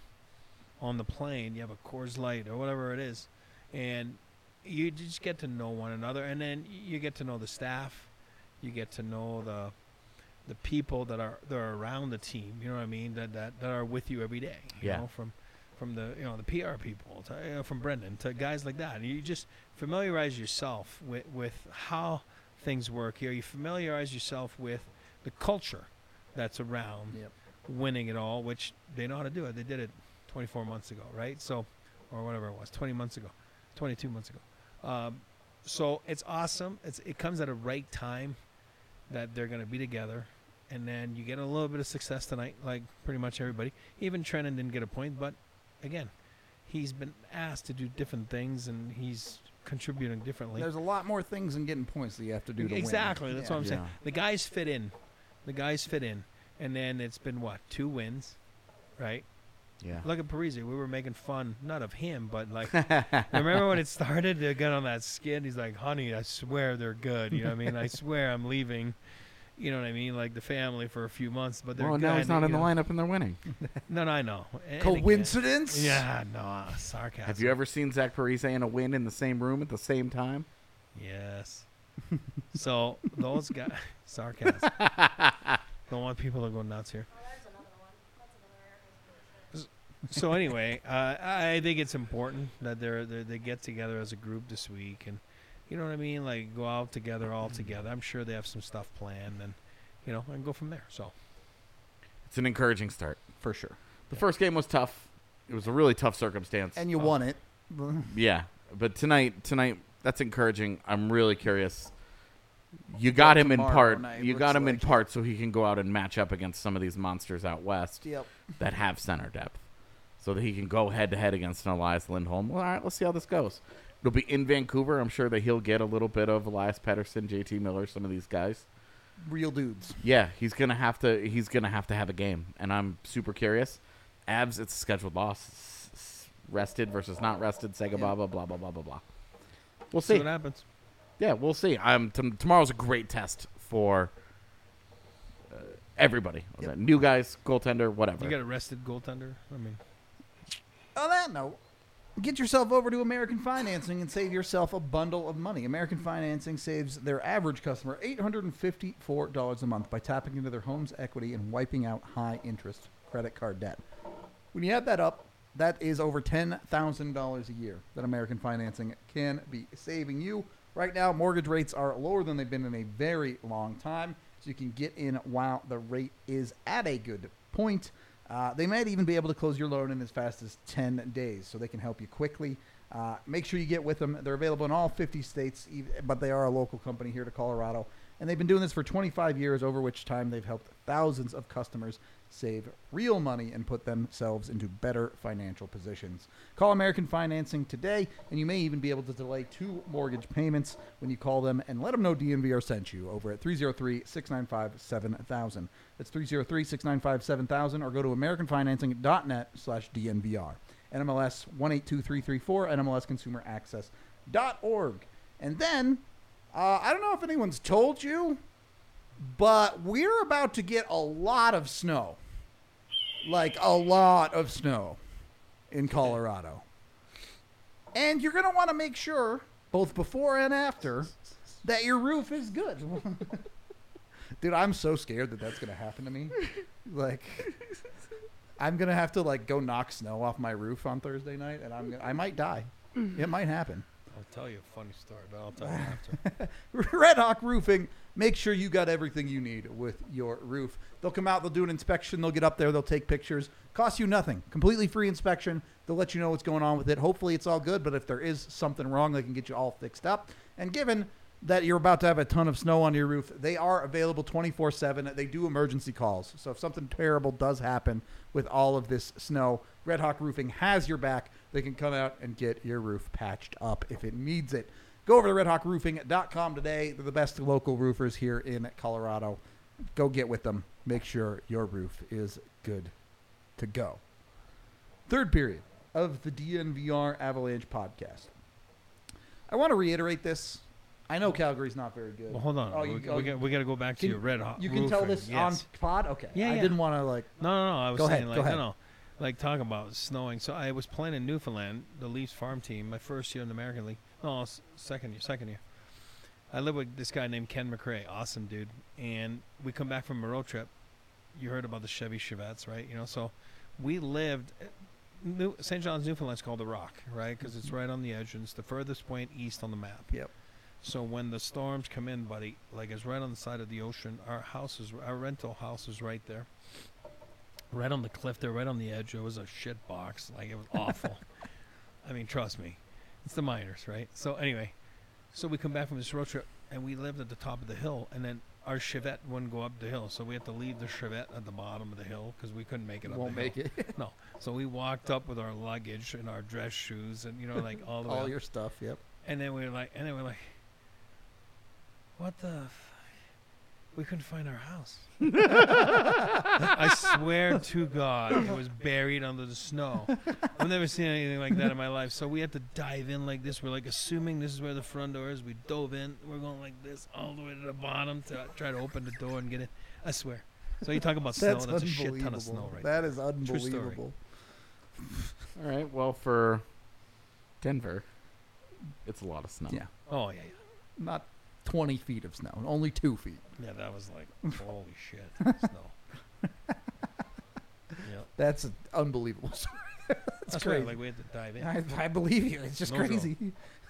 on the plane. You have a Coors Light or whatever it is. And you just get to know one another. And then you get to know the staff. You get to know the the people that are that are around the team, you know what I mean, that that, that are with you every day. You
Yeah.
know, from from the you know the P R people, to, you know, from Brendan to guys like that. And you just familiarize yourself with with how things work here. You familiarize yourself with the culture that's around
Yep.
winning it all, which they know how to do it. They did it twenty-four months ago, right? So, or whatever it was, twenty months ago, twenty-two months ago. Um, so it's awesome. It's it comes at a right time that they're going to be together. And then you get a little bit of success tonight, like pretty much everybody. Even Trennan didn't get a point, but again, he's been asked to do different things, and he's contributing differently.
There's a lot more things than getting points that you have to do to
exactly,
win.
that's
Yeah.
what I'm saying.
Yeah.
The guys fit in. The guys fit in. And then it's been, what, two wins, right?
Yeah.
Look at Parise. We were making fun, not of him, but like, remember when it started to get on that skid? He's like, honey, I swear they're good. You know what I mean? I swear I'm leaving. You know what I mean? Like the family for a few months, but they're
Well,
good.
now he's not
you
in the
know.
lineup and they're winning.
No, no, I know. And- and again-
Coincidence?
Yeah, no, uh, sarcasm.
Have you ever seen Zach Parise and a win in the same room at the same time?
Yes. So those guys, sarcasm. Don't want people to go nuts here.
Oh, there's another one. That's another Eric.
So anyway, uh, I think it's important that they're, they're they get together as a group this week, and you know what I mean, like go out together, all together. I'm sure they have some stuff planned, and you know, and go from there. So
It's an encouraging start.
For sure.
The first game was tough. It was a really tough circumstance.
And you
Oh.
won it.
Yeah, but tonight, tonight that's encouraging. I'm really curious. You got him in
tomorrow
part.
night
You
looks
got him in
like-
part so he can go out and match up against some of these monsters out west
Yep.
that have center depth, so that he can go head to head against an Elias Lindholm. Well, all right, let's see how this goes. It'll be in Vancouver. I'm sure that he'll get a little bit of Elias Pettersson, J T Miller, some of these guys.
Real dudes.
Yeah, he's gonna have to. He's gonna have to have a game, and I'm super curious. Avs, it's a scheduled loss. S- s- Rested versus not rested. Sega
Yeah.
blah blah blah blah blah blah blah. We'll
see
see.
what happens.
Yeah, we'll see. Um, t- tomorrow's a great test for uh, everybody.
Yep.
New guys, goaltender, whatever.
You got a rested goaltender. I mean,
On that note, get yourself over to American Financing and save yourself a bundle of money. American Financing saves their average customer eight hundred fifty-four dollars a month by tapping into their home's equity and wiping out high-interest credit card debt. When you add that up, that is over ten thousand dollars a year that American Financing can be saving you. Right now, mortgage rates are lower than they've been in a very long time, so you can get in while the rate is at a good point. Uh, they might even be able to close your loan in as fast as ten days, so they can help you quickly. Uh, make sure you get with them. They're available in all fifty states, ev- but they are a local company here to Colorado. And they've been doing this for twenty-five years, over which time they've helped thousands of customers save real money and put themselves into better financial positions. Call American Financing today, and you may even be able to delay two mortgage payments when you call them and let them know D N V R sent you over at three oh three, six nine five, seven thousand. That's three oh three, six nine five, seven thousand, or go to americanfinancing.net slash DNVR. N M L S one eight two three three four, N M L S consumer access dot org. And then, uh, I don't know if anyone's told you, but we're about to get a lot of snow. Like a lot of snow in Colorado. And you're going to want to make sure, both before and after, that your roof is good. Dude, I'm so scared that that's going to happen to me. Like, I'm going to have to, like, go knock snow off my roof on Thursday night, and I'm gonna, I might die. It might happen.
I'll tell you a funny story, but I'll tell you after.
Red Hawk Roofing, make sure you got everything you need with your roof. They'll come out, they'll do an inspection, they'll get up there, they'll take pictures. Costs you nothing. Completely free inspection. They'll let you know what's going on with it. Hopefully it's all good, but if there is something wrong, they can get you all fixed up. And given that you're about to have a ton of snow on your roof, they are available twenty-four seven. They do emergency calls. So if something terrible does happen with all of this snow, Red Hawk Roofing has your back. They can come out and get your roof patched up if it needs it. Go over to red hawk roofing dot com today. They're the best local roofers here in Colorado. Go get with them. Make sure your roof is good to go. Third period of the D N V R Avalanche podcast. I want to reiterate this. I know Calgary's not very good.
Well, hold on.
Oh,
we,
you-
we,
oh,
got, we got to go back to
can-
your red hot.
You can tell
roofing.
this
Yes.
on pod? Okay.
Yeah,
I
yeah.
didn't want to, like...
No, no, no. I was
Go
saying
ahead,
like
go ahead.
no, no, like talking about snowing. So I was playing in Newfoundland, the Leafs farm team, my first year in the American League. No, s- second year, second year. I live with this guy named Ken McRae, awesome dude. And we come back from a road trip. You heard about the Chevy Chevettes, right? You know, so we lived. New, Saint John's, Newfoundland's called the Rock, right? Because it's right on the edge, and it's the furthest point east on the map.
Yep.
So when the storms come in, buddy, like it's right on the side of the ocean. Our house is, our rental house is right there, right on the cliff there, right on the edge. It was a shit box, like it was awful. I mean, trust me, it's the miners, right? So anyway, so we come back from this road trip, and we lived at the top of the hill, and then our Chevette wouldn't go up the hill, so we had to leave the Chevette at the bottom of the hill because we couldn't make it up.
Won't
the
make
hill.
it.
No, so we walked up with our luggage and our dress shoes, and you know, like all the way
All
up.
your stuff, yep.
And then we were like, and then we we're like, what the? F-? We couldn't find our house. I swear to God, it was buried under the snow. I've never seen anything like that in my life. So we had to dive in like this. We're like assuming this is where the front door is. We dove in. We're going like this all the way to the bottom to try to open the door and get in. I swear. So you talk about snow.
That's
That's a shit ton of
unbelievable.
snow right
That
there.
is
True story.
unbelievable.
All right. Well, for Denver, it's a lot of snow.
Yeah.
Oh, yeah, yeah.
Not twenty feet of snow. Only two feet.
Yeah, that was like, holy shit, snow. Yep.
That's an unbelievable story. That's,
That's
crazy.
right. Like we had to dive in.
I, I believe you. It's just
No joke.
crazy.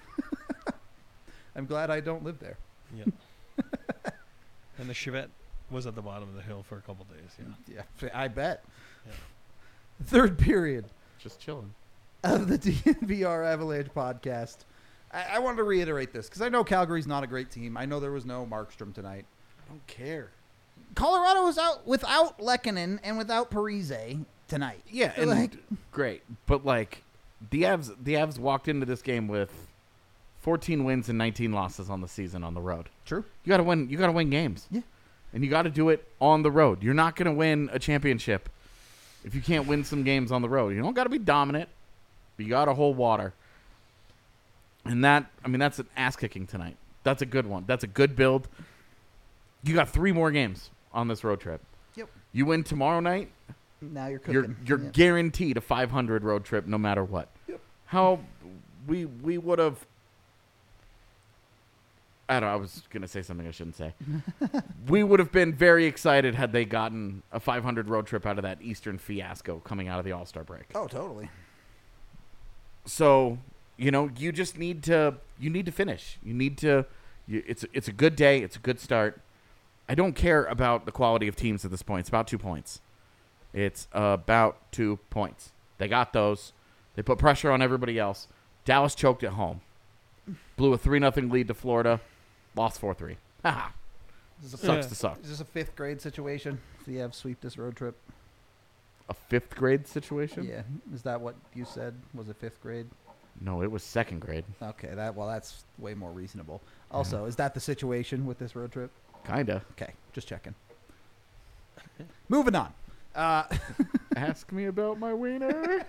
I'm glad I don't live there.
Yeah. And the Chevette was at the bottom of the hill for a couple days. Yeah.
Yeah, I bet.
Yeah.
Third period
Just chilling.
of the D N V R Avalanche podcast. I, I wanted to reiterate this because I know Calgary's not a great team. I know there was no Markstrom tonight.
I don't care.
Colorado was out without Lehkonen and without Parise tonight.
Yeah, and
Like-
great, but like the Avs, the Avs walked into this game with fourteen wins and nineteen losses on the season on the road.
True.
You got to win. You got to win games.
Yeah.
And you got to do it on the road. You're not going to win a championship if you can't win some games on the road. You don't got to be dominant, but you got to hold water. And that, I mean, that's an ass kicking tonight. That's a good one. That's a good build. You got three more games on this road trip.
Yep.
You win tomorrow night,
Now you're cooking.
you're you're
Yeah.
guaranteed a five hundred road trip no matter what.
Yep.
How we we would have. I don't know. I was going to say something I shouldn't say. We would have been very excited had they gotten a five hundred road trip out of that Eastern fiasco coming out of the All-Star break.
Oh, totally.
So, you know, you just need to you need to finish. You need to you, it's it's a good day, it's a good start. I don't care about the quality of teams at this point. It's about two points. It's about two points. They got those. They put pressure on everybody else. Dallas choked at home. Blew a three nothing lead to Florida. Lost four three. Haha.
Is this, a,
Sucks
Yeah.
to suck.
is this a fifth grade situation? If you have sweep this road trip?
A fifth grade situation?
Yeah. Is that what you said? Was it fifth grade?
No, it was second grade.
Okay. That well, that's way more reasonable. Also, is that the situation with this road trip?
Kinda.
Okay, just checking. Moving on. Uh,
Ask me about my wiener.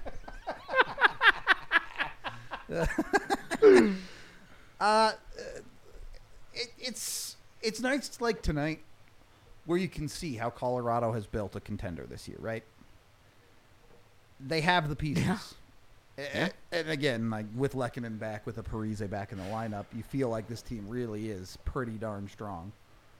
uh, it, it's it's nights like tonight where you can see how Colorado has built a contender this year, right? They have the pieces.
Yeah.
A-
Yeah.
And again, like with Lehkonen back, with a Parise back in the lineup, you feel like this team really is pretty darn strong.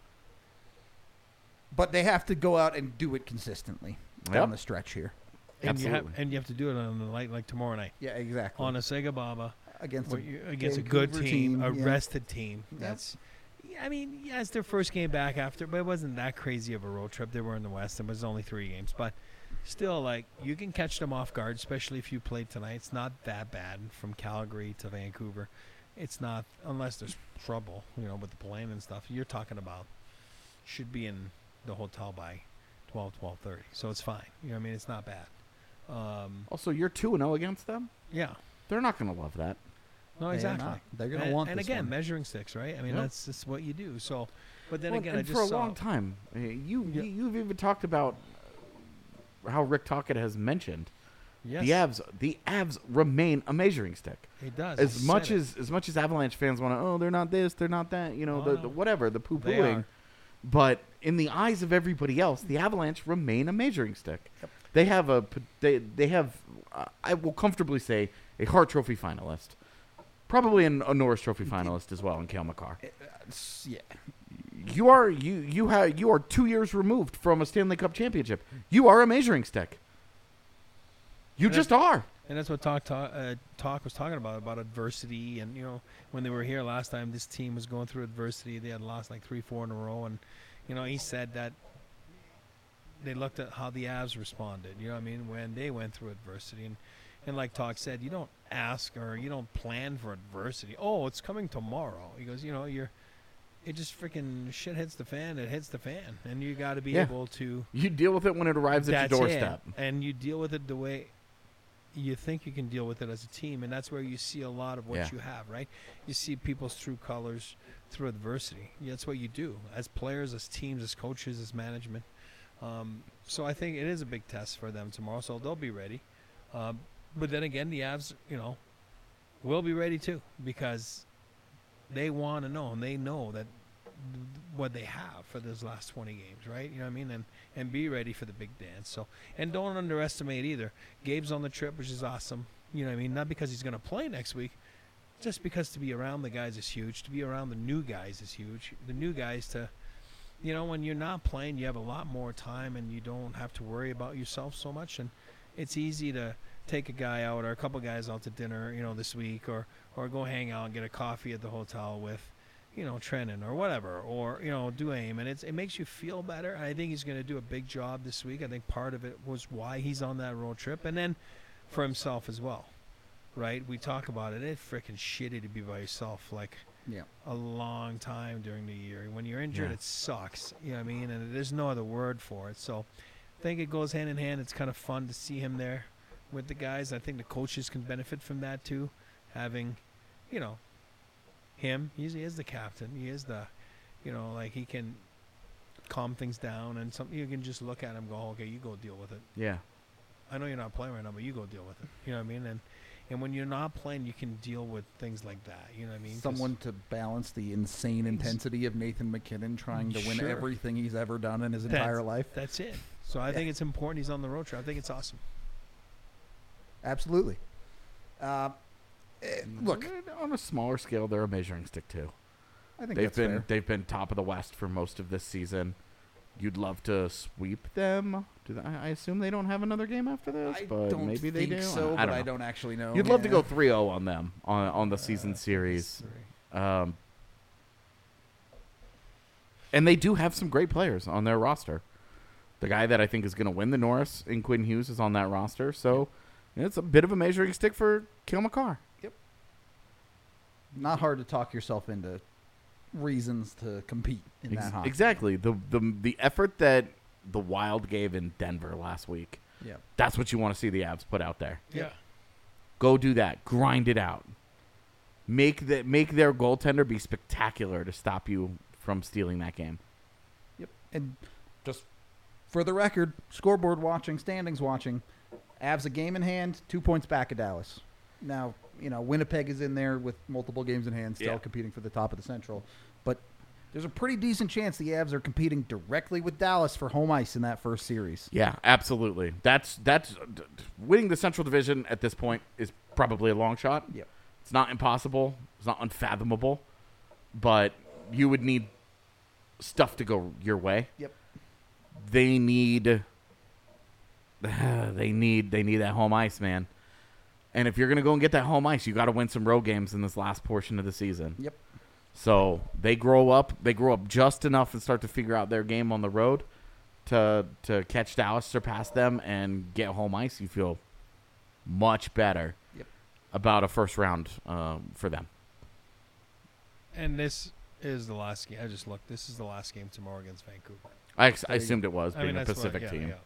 But they have to go out and do it consistently down
Yep.
the stretch here.
And you have
Absolutely.
and you have to do it on the night like tomorrow night
Yeah, exactly.
on a Sega Baba
against
where
a
you, against a good
Vancouver
team,
team,
a
yeah.
rested team.
Yep.
That's. I mean, yeah, it's their first game back after, but it wasn't that crazy of a road trip. They were in the West. It was only three games, but still, like you can catch them off guard, especially if you played tonight. It's not that bad from Calgary to Vancouver. It's not unless there's trouble, you know, with the plane and stuff. You're talking about should be in the hotel by twelve, twelve thirty. So it's fine. You know what I mean? It's not bad. Um,
Also, you're two and oh against them?
yeah.
They're not going to love that.
No,
They're
exactly.
not. They're gonna
and,
want
and
this
again,
one.
measuring sticks, right? I mean,
Yep.
that's just what you do. So, but then
Well,
again,
and
I just
for a
saw,
long time, uh, you,
Yeah.
you you've even talked about how Rick Tocchet has mentioned
yes,
the Avs. The Avs remain a measuring stick.
it does.
As
He
much
said it.
as as much as Avalanche fans want to, oh, they're not this, they're not that, you know,
Oh,
the,
no.
the whatever, the poo
They
pooing.
are.
But in the eyes of everybody else, the Avalanche remain a measuring stick. They have a p- they they have uh, I will comfortably say a Hart Trophy finalist, probably an, a Norris Trophy finalist as well in Cale Makar.
It's- yeah.
You are you you have you are two years removed from a Stanley Cup championship. You are a measuring stick. You
And
just are.
And that's what talk talk, uh, talk was talking about about adversity. And you know, when they were here last time, this team was going through adversity. They had lost like three, four in a row, and you know, he said that they looked at how the Avs responded. You know what I mean? When they went through adversity, and and like Talk said, you don't ask or you don't plan for adversity. Oh, it's coming tomorrow. He goes, you know, you're. It just freaking shit hits the fan. It hits the fan, and you got to be
Yeah.
able to.
You deal with it when it arrives at
That's
your
it.
doorstep.
And you deal with it the way you think you can deal with it as a team, and that's where you see a lot of what
Yeah.
you have, right? You see people's true colors through adversity. Yeah, that's what you do as players, as teams, as coaches, as management. Um, so I think it is a big test for them tomorrow, so they'll be ready. Um, but then again, the Avs, you know, will be ready too because they want to know, and they know that th- what they have for those last twenty games, right? You know what I mean? And and be ready for the big dance. So, and don't underestimate either. Gabe's on the trip, which is awesome. You know what I mean? Not because he's going to play next week, just because to be around the guys is huge. To be around the new guys is huge. The new guys to, you know, when you're not playing, you have a lot more time and you don't have to worry about yourself so much. And it's easy to take a guy out or a couple guys out to dinner, you know, this week, or or go hang out and get a coffee at the hotel with, you know, Trenton or whatever, or, you know, Duane, and it's, it makes you feel better. I think he's going to do a big job this week. I think part of it was why he's on that road trip, and then for himself as well, right? We talk about it. It's freaking shitty to be by yourself, like,
Yeah.
a long time during the year. When you're injured,
Yeah.
it sucks. You know what I mean? And there's no other word for it. So I think it goes hand in hand. It's kind of fun to see him there with the guys. I think the coaches can benefit from that too, having, you know, him. He's, he is the captain. He is the, you know, like he can calm things down, and some you can just look at him and go, okay, you go deal with it.
Yeah.
I know you're not playing right now, but you go deal with it. You know what I mean? And and when you're not playing, you can deal with things like that. You know what I mean? 'Cause
Someone to balance the insane intensity of Nathan McKinnon trying to win
Sure.
everything he's ever done in his
That's-
entire life.
That's it. So I
Yeah.
think it's important he's on the road trip. I think it's awesome.
Absolutely. Uh, eh, look,
on a smaller scale, they're a measuring stick too.
I think
They've
that's
been
fair.
they've been top of the West for most of this season. You'd love to sweep them. Do they, I I assume they don't have another game after this,
I
but
don't
maybe they
think
do.
so,
I
but
don't
I
know.
don't actually know.
You'd love to
Yeah.
go three oh on them on on the season series. Um, and they do have some great players on their roster. The guy that I think is going to win the Norris in Quinn Hughes is on that roster, so it's a bit of a measuring stick for Cale Makar.
Not hard to talk yourself into reasons to compete in
Ex-
that hockey.
exactly. The, the the effort that the Wild gave in Denver last week,
Yeah.
that's what you want to see the Avs put out there.
Yeah.
Go do that. Grind it out. Make the, make their goaltender be spectacular to stop you from stealing that game.
Yep. And just for the record, scoreboard watching, standings watching, Avs a game in hand, two points back of Dallas. Now, you know, Winnipeg is in there with multiple games in hand, still
Yeah.
competing for the top of the Central. But there's a pretty decent chance the Avs are competing directly with Dallas for home ice in that first series.
Yeah, absolutely. That's that's d- d- winning the Central Division at this point is probably a long shot.
Yep.
It's not impossible. It's not unfathomable, but you would need stuff to go your way.
Yep.
They need they need they need that home ice, man. And if you're going to go and get that home ice, you got to win some road games in this last portion of the season.
Yep.
So they grow up. They grow up just enough and start to figure out their game on the road to to catch Dallas, surpass them, and get home ice. You feel much better
Yep.
about a first round um, for them.
And this is the last game. I just looked. This is the last game tomorrow against Vancouver.
I, ex- I
There you
assumed it was
I
being
mean,
a
that's what-
Pacific
yeah,
team.
yeah, yeah.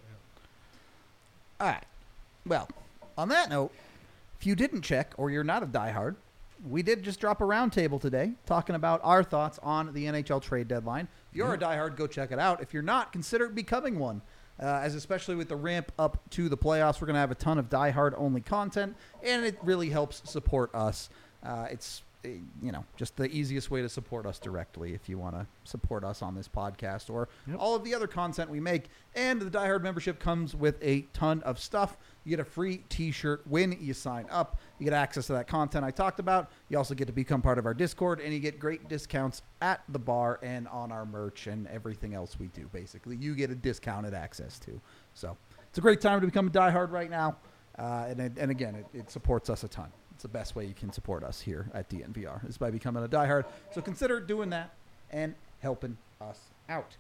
All right. Well, on that note, if you didn't check or you're not a diehard, we did just drop a roundtable today talking about our thoughts on the N H L trade deadline. If you're a diehard, go check it out. If you're not, consider becoming one. Uh, as especially with the ramp up to the playoffs, we're going to have a ton of diehard only content, and it really helps support us. Uh, it's uh, you know just the easiest way to support us directly if you want to support us on this podcast or
Yep.
all of the other content we make. And the diehard membership comes with a ton of stuff. You get a free t-shirt when you sign up. You get access to that content I talked about. You also get to become part of our Discord, and you get great discounts at the bar and on our merch and everything else we do, basically. You get a discounted access to. So it's a great time to become a diehard right now. Uh, and, it- and again, it, it supports us a ton. It's the best way you can support us here at D N V R is by becoming a diehard. So consider doing that and helping us out.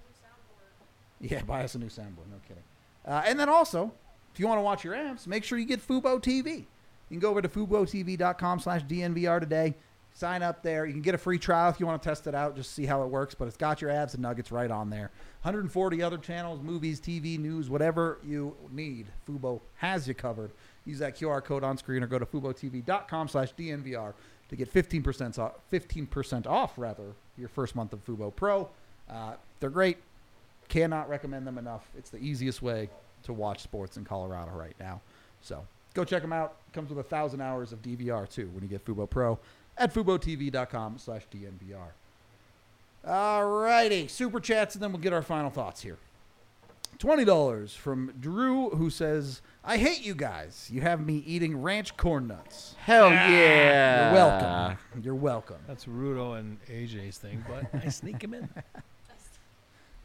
Yeah, buy us a new soundboard. No kidding. Uh, and then also, if you want to watch your amps, make sure you get Fubo T V. You can go over to FuboTV.com slash DNVR today. Sign up there. You can get a free trial if you want to test it out, just see how it works. But it's got your abs and nuggets right on there. one hundred forty other channels, movies, T V, news, whatever you need. Fubo has you covered. Use that Q R code on screen or go to FuboTV.com slash DNVR to get fifteen percent off, fifteen percent off, rather, your first month of Fubo Pro. Uh, they're great. Cannot recommend them enough. It's the easiest way to watch sports in Colorado right now. So go check them out. Comes with a thousand hours of D V R too when you get Fubo Pro at FuboTV.com slash DNVR. All righty. Super chats, and then we'll get our final thoughts here. twenty dollars from Drew, who says, I hate you guys. You have me eating ranch corn nuts.
Hell yeah!
You're welcome. You're welcome.
That's Rudo and A J's thing, but I sneak him in.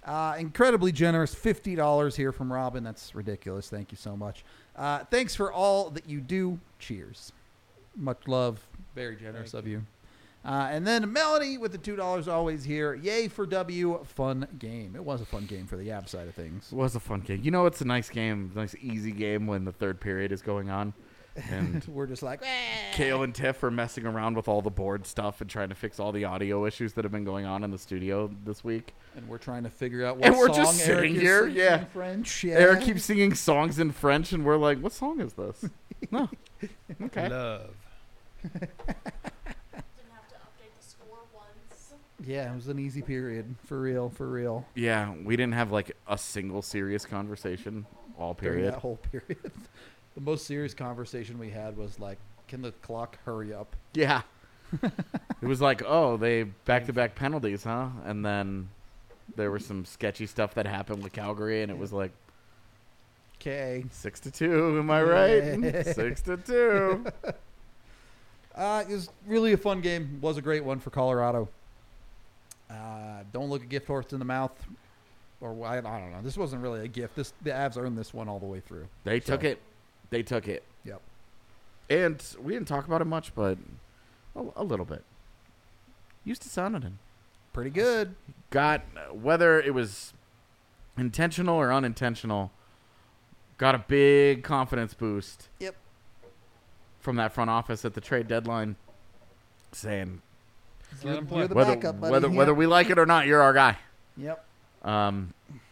Uh, incredibly generous, fifty dollars here from Robin. That's ridiculous. Thank you so much. Uh, thanks for all that you do. Cheers. Much love. Very generous
Thank
of you. Uh, and then Melanie with the two dollars always here. Yay for W. Fun game. It was a fun game for the Avs side of things.
It was a fun game. You know, it's a nice game, nice easy game when the third period is going on, and
We're just like, eh.
Kale and Tiff are messing around with all the board stuff and trying to fix all the audio issues that have been going on in the studio this week.
And we're trying to figure out what
And we're
song
just
Eric
sitting
is
here,
singing
yeah.
in French. Yeah.
Eric keeps singing songs in French, and we're like, "What song is this?" No, okay.
Love.
Didn't have to update the score once.
Yeah, it was an easy period. For real, for real.
Yeah, we didn't have like a single serious conversation all
During
period.
that whole period. The most serious conversation we had was like, can the clock hurry up?
Yeah. It was like, oh, they back-to-back penalties, huh? And then there was some sketchy stuff that happened with Calgary, and it was like
Okay.
six to two. Am I right?
Yeah.
Six to two.
Uh, it was really a fun game. Was a great one for Colorado. Uh, don't look a gift horse in the mouth. Or I, I don't know. This wasn't really a gift. This the Avs earned this one all the way through.
They
So-
took it. They took it.
Yep.
And we didn't talk about it much, but a, a little bit. Used to Sonoden.
Pretty good.
Got, whether it was intentional or unintentional, got a big confidence boost.
Yep.
From that front office at the trade deadline, saying
Let
You're-
him play.
you're the
whether
backup, buddy.
whether
Yep.
whether we like it or not, you're our guy.
Yep.
Um,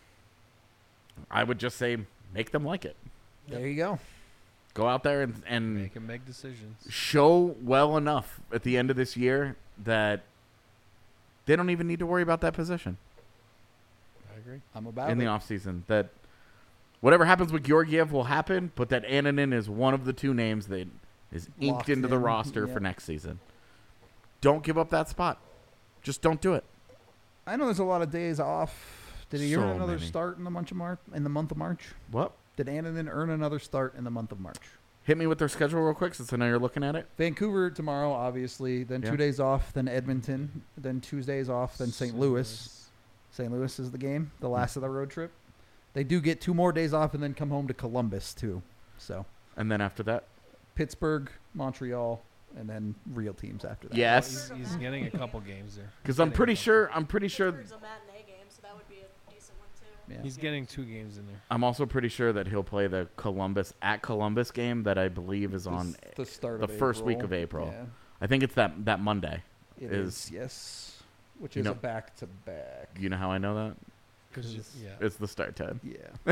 I would just say make them like it.
There you go.
Go out there and, and
Make him make decisions.
show well enough at the end of this year that they don't even need to worry about that position
I agree.
I'm about
in
it.
the offseason. That whatever happens with Georgiev will happen, but that Annunen is one of the two names that is inked
Locked
into the
in,
roster
yep.
for next season. Don't give up that spot. Just don't do it.
I know there's a lot of days off. Did he
So
earn another
many.
start in the month of March? In the month of March?
What?
Did Annunen earn another start in the month of March?
Hit me with their schedule real quick since I know you're looking at it.
Vancouver tomorrow, obviously. Then
Yeah.
two days off. Then Edmonton. Then Tuesdays off. Then Saint Louis. Saint Louis is the game. The last of the road trip. They do get two more days off and then come home to Columbus too. So
And then after that,
Pittsburgh, Montreal, and then real teams after that.
yes,
He's, he's getting a couple games there.
because I'm pretty sure I'm pretty sure
Pittsburgh's a matinee game, so that would be a decent one too.
Yeah.
He's getting two games in there.
I'm also pretty sure that he'll play the Columbus at Columbus game that I believe is on.
This- the start
the
of
first week
April.
of April.
Yeah,
I think it's that that Monday.
it
is-
is, yes. Which
you
is
know-
a back to back.
You know how I know that?
Because
Because-
yeah,
It's the start time.
Yeah.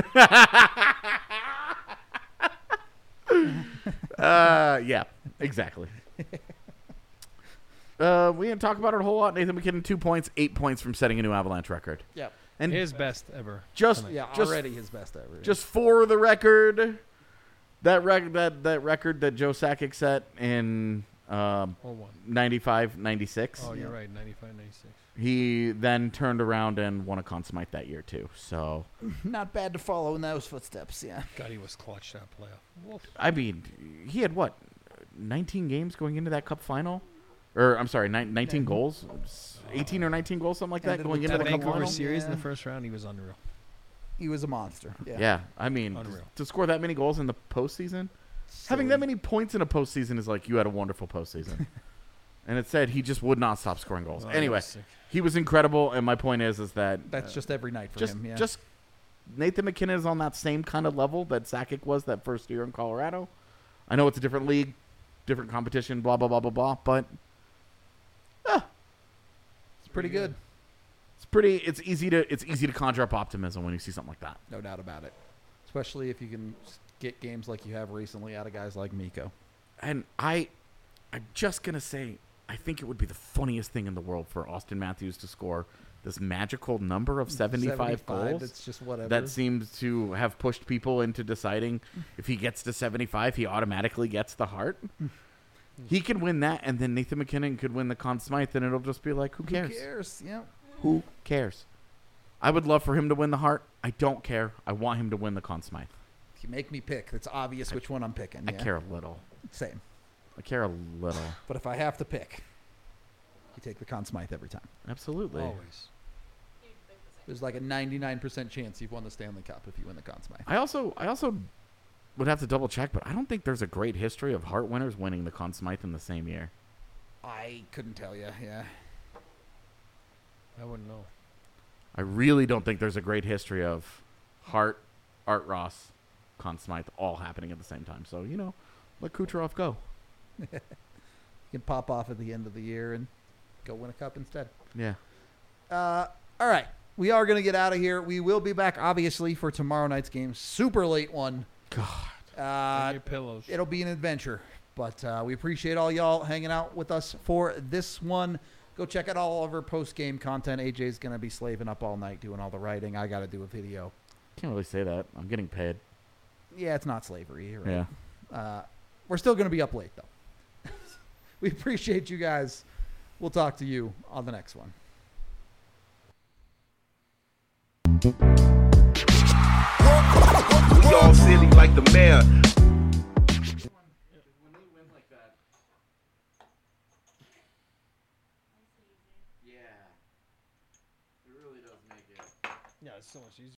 uh, yeah, exactly. Uh, we didn't talk about it a whole lot. Nathan McKinnon, two points, eight points from setting a new Avalanche record.
Yeah.
And
his best ever.
just
tonight.
Yeah,
just
already his best ever.
just for the record, that rec- that that record that Joe Sakic set in um,
Oh one.
ninety-five ninety-six.
Oh, you're
Yeah.
right. ninety-five, ninety-six.
He then turned around and won a Conn Smythe that year too. So
not bad to follow in those footsteps. Yeah.
God, he was clutch that playoff. Woof.
I mean, he had what, nineteen games going into that Cup final, or I'm sorry, nine, nineteen
Yeah.
goals, eighteen or nineteen goals, something like that,
Ended
going
with
into
That
the Cup
Vancouver
final.
series in the
Yeah.
first round, he was unreal.
He was a monster. Yeah.
Yeah, I mean,
Unreal.
to score that many goals in the postseason, having that many points in a postseason is like you had a wonderful postseason. And it said he just would not stop scoring goals.
Oh, he
Anyway,
was sick.
he was incredible, and my point is, is that
That's
uh,
just every night for
just
him. Yeah.
just Nathan McKinnon is on that same kind of level that Sakic was that first year in Colorado. I know it's a different league, different competition, blah blah blah blah blah, but ah,
it's pretty good.
it's pretty. It's easy to it's easy to conjure up optimism when you see something like that.
No doubt about it. Especially if you can s- get games like you have recently out of guys like Miko.
And I, I'm just gonna say, I think it would be the funniest thing in the world for Austin Matthews to score this magical number of seventy-five, goals.
That's just whatever.
That seems to have pushed people into deciding if he gets to seventy-five, he automatically gets the Hart. He can win that, and then Nathan McKinnon could win the Conn Smythe, and it'll just be like, who cares?
Who cares? Yeah.
Who cares? I would love for him to win the Hart. I don't care. I want him to win the Conn Smythe.
If you make me pick, it's obvious which one I'm picking.
I
yeah.
care a little.
Same.
I care a little.
But if I have to pick, you take the Conn Smythe every time.
Absolutely.
Always.
You'd pick the
There's like a ninety-nine percent chance you've won the Stanley Cup if you win the Conn Smythe.
I also I also would have to double check, but I don't think there's a great history of Hart winners winning the Conn Smythe in the same year.
I couldn't tell you. Yeah.
I wouldn't know.
I really don't think there's a great history of Hart, Art Ross, Conn Smythe all happening at the same time. So, you know, let Kucherov go.
You can pop off at the end of the year and go win a cup instead.
Yeah.
Uh, all right. We are going to get out of here. We will be back, obviously, for tomorrow night's game. Super late one.
God.
Uh,
your pillows.
it'll be an adventure. But uh, we appreciate all y'all hanging out with us for this one. Go check out all of our post-game content. A J's going to be slaving up all night doing all the writing. I got to do a video.
Can't really say that. I'm getting paid.
Yeah, it's not slavery. You're right.
Yeah.
Uh, we're still going to be up late, though. We appreciate you guys. We'll talk to you on the next one.
We all silly like the mayor.
When they win like that. Yeah. It really does make it.
Yeah, it's so much easier.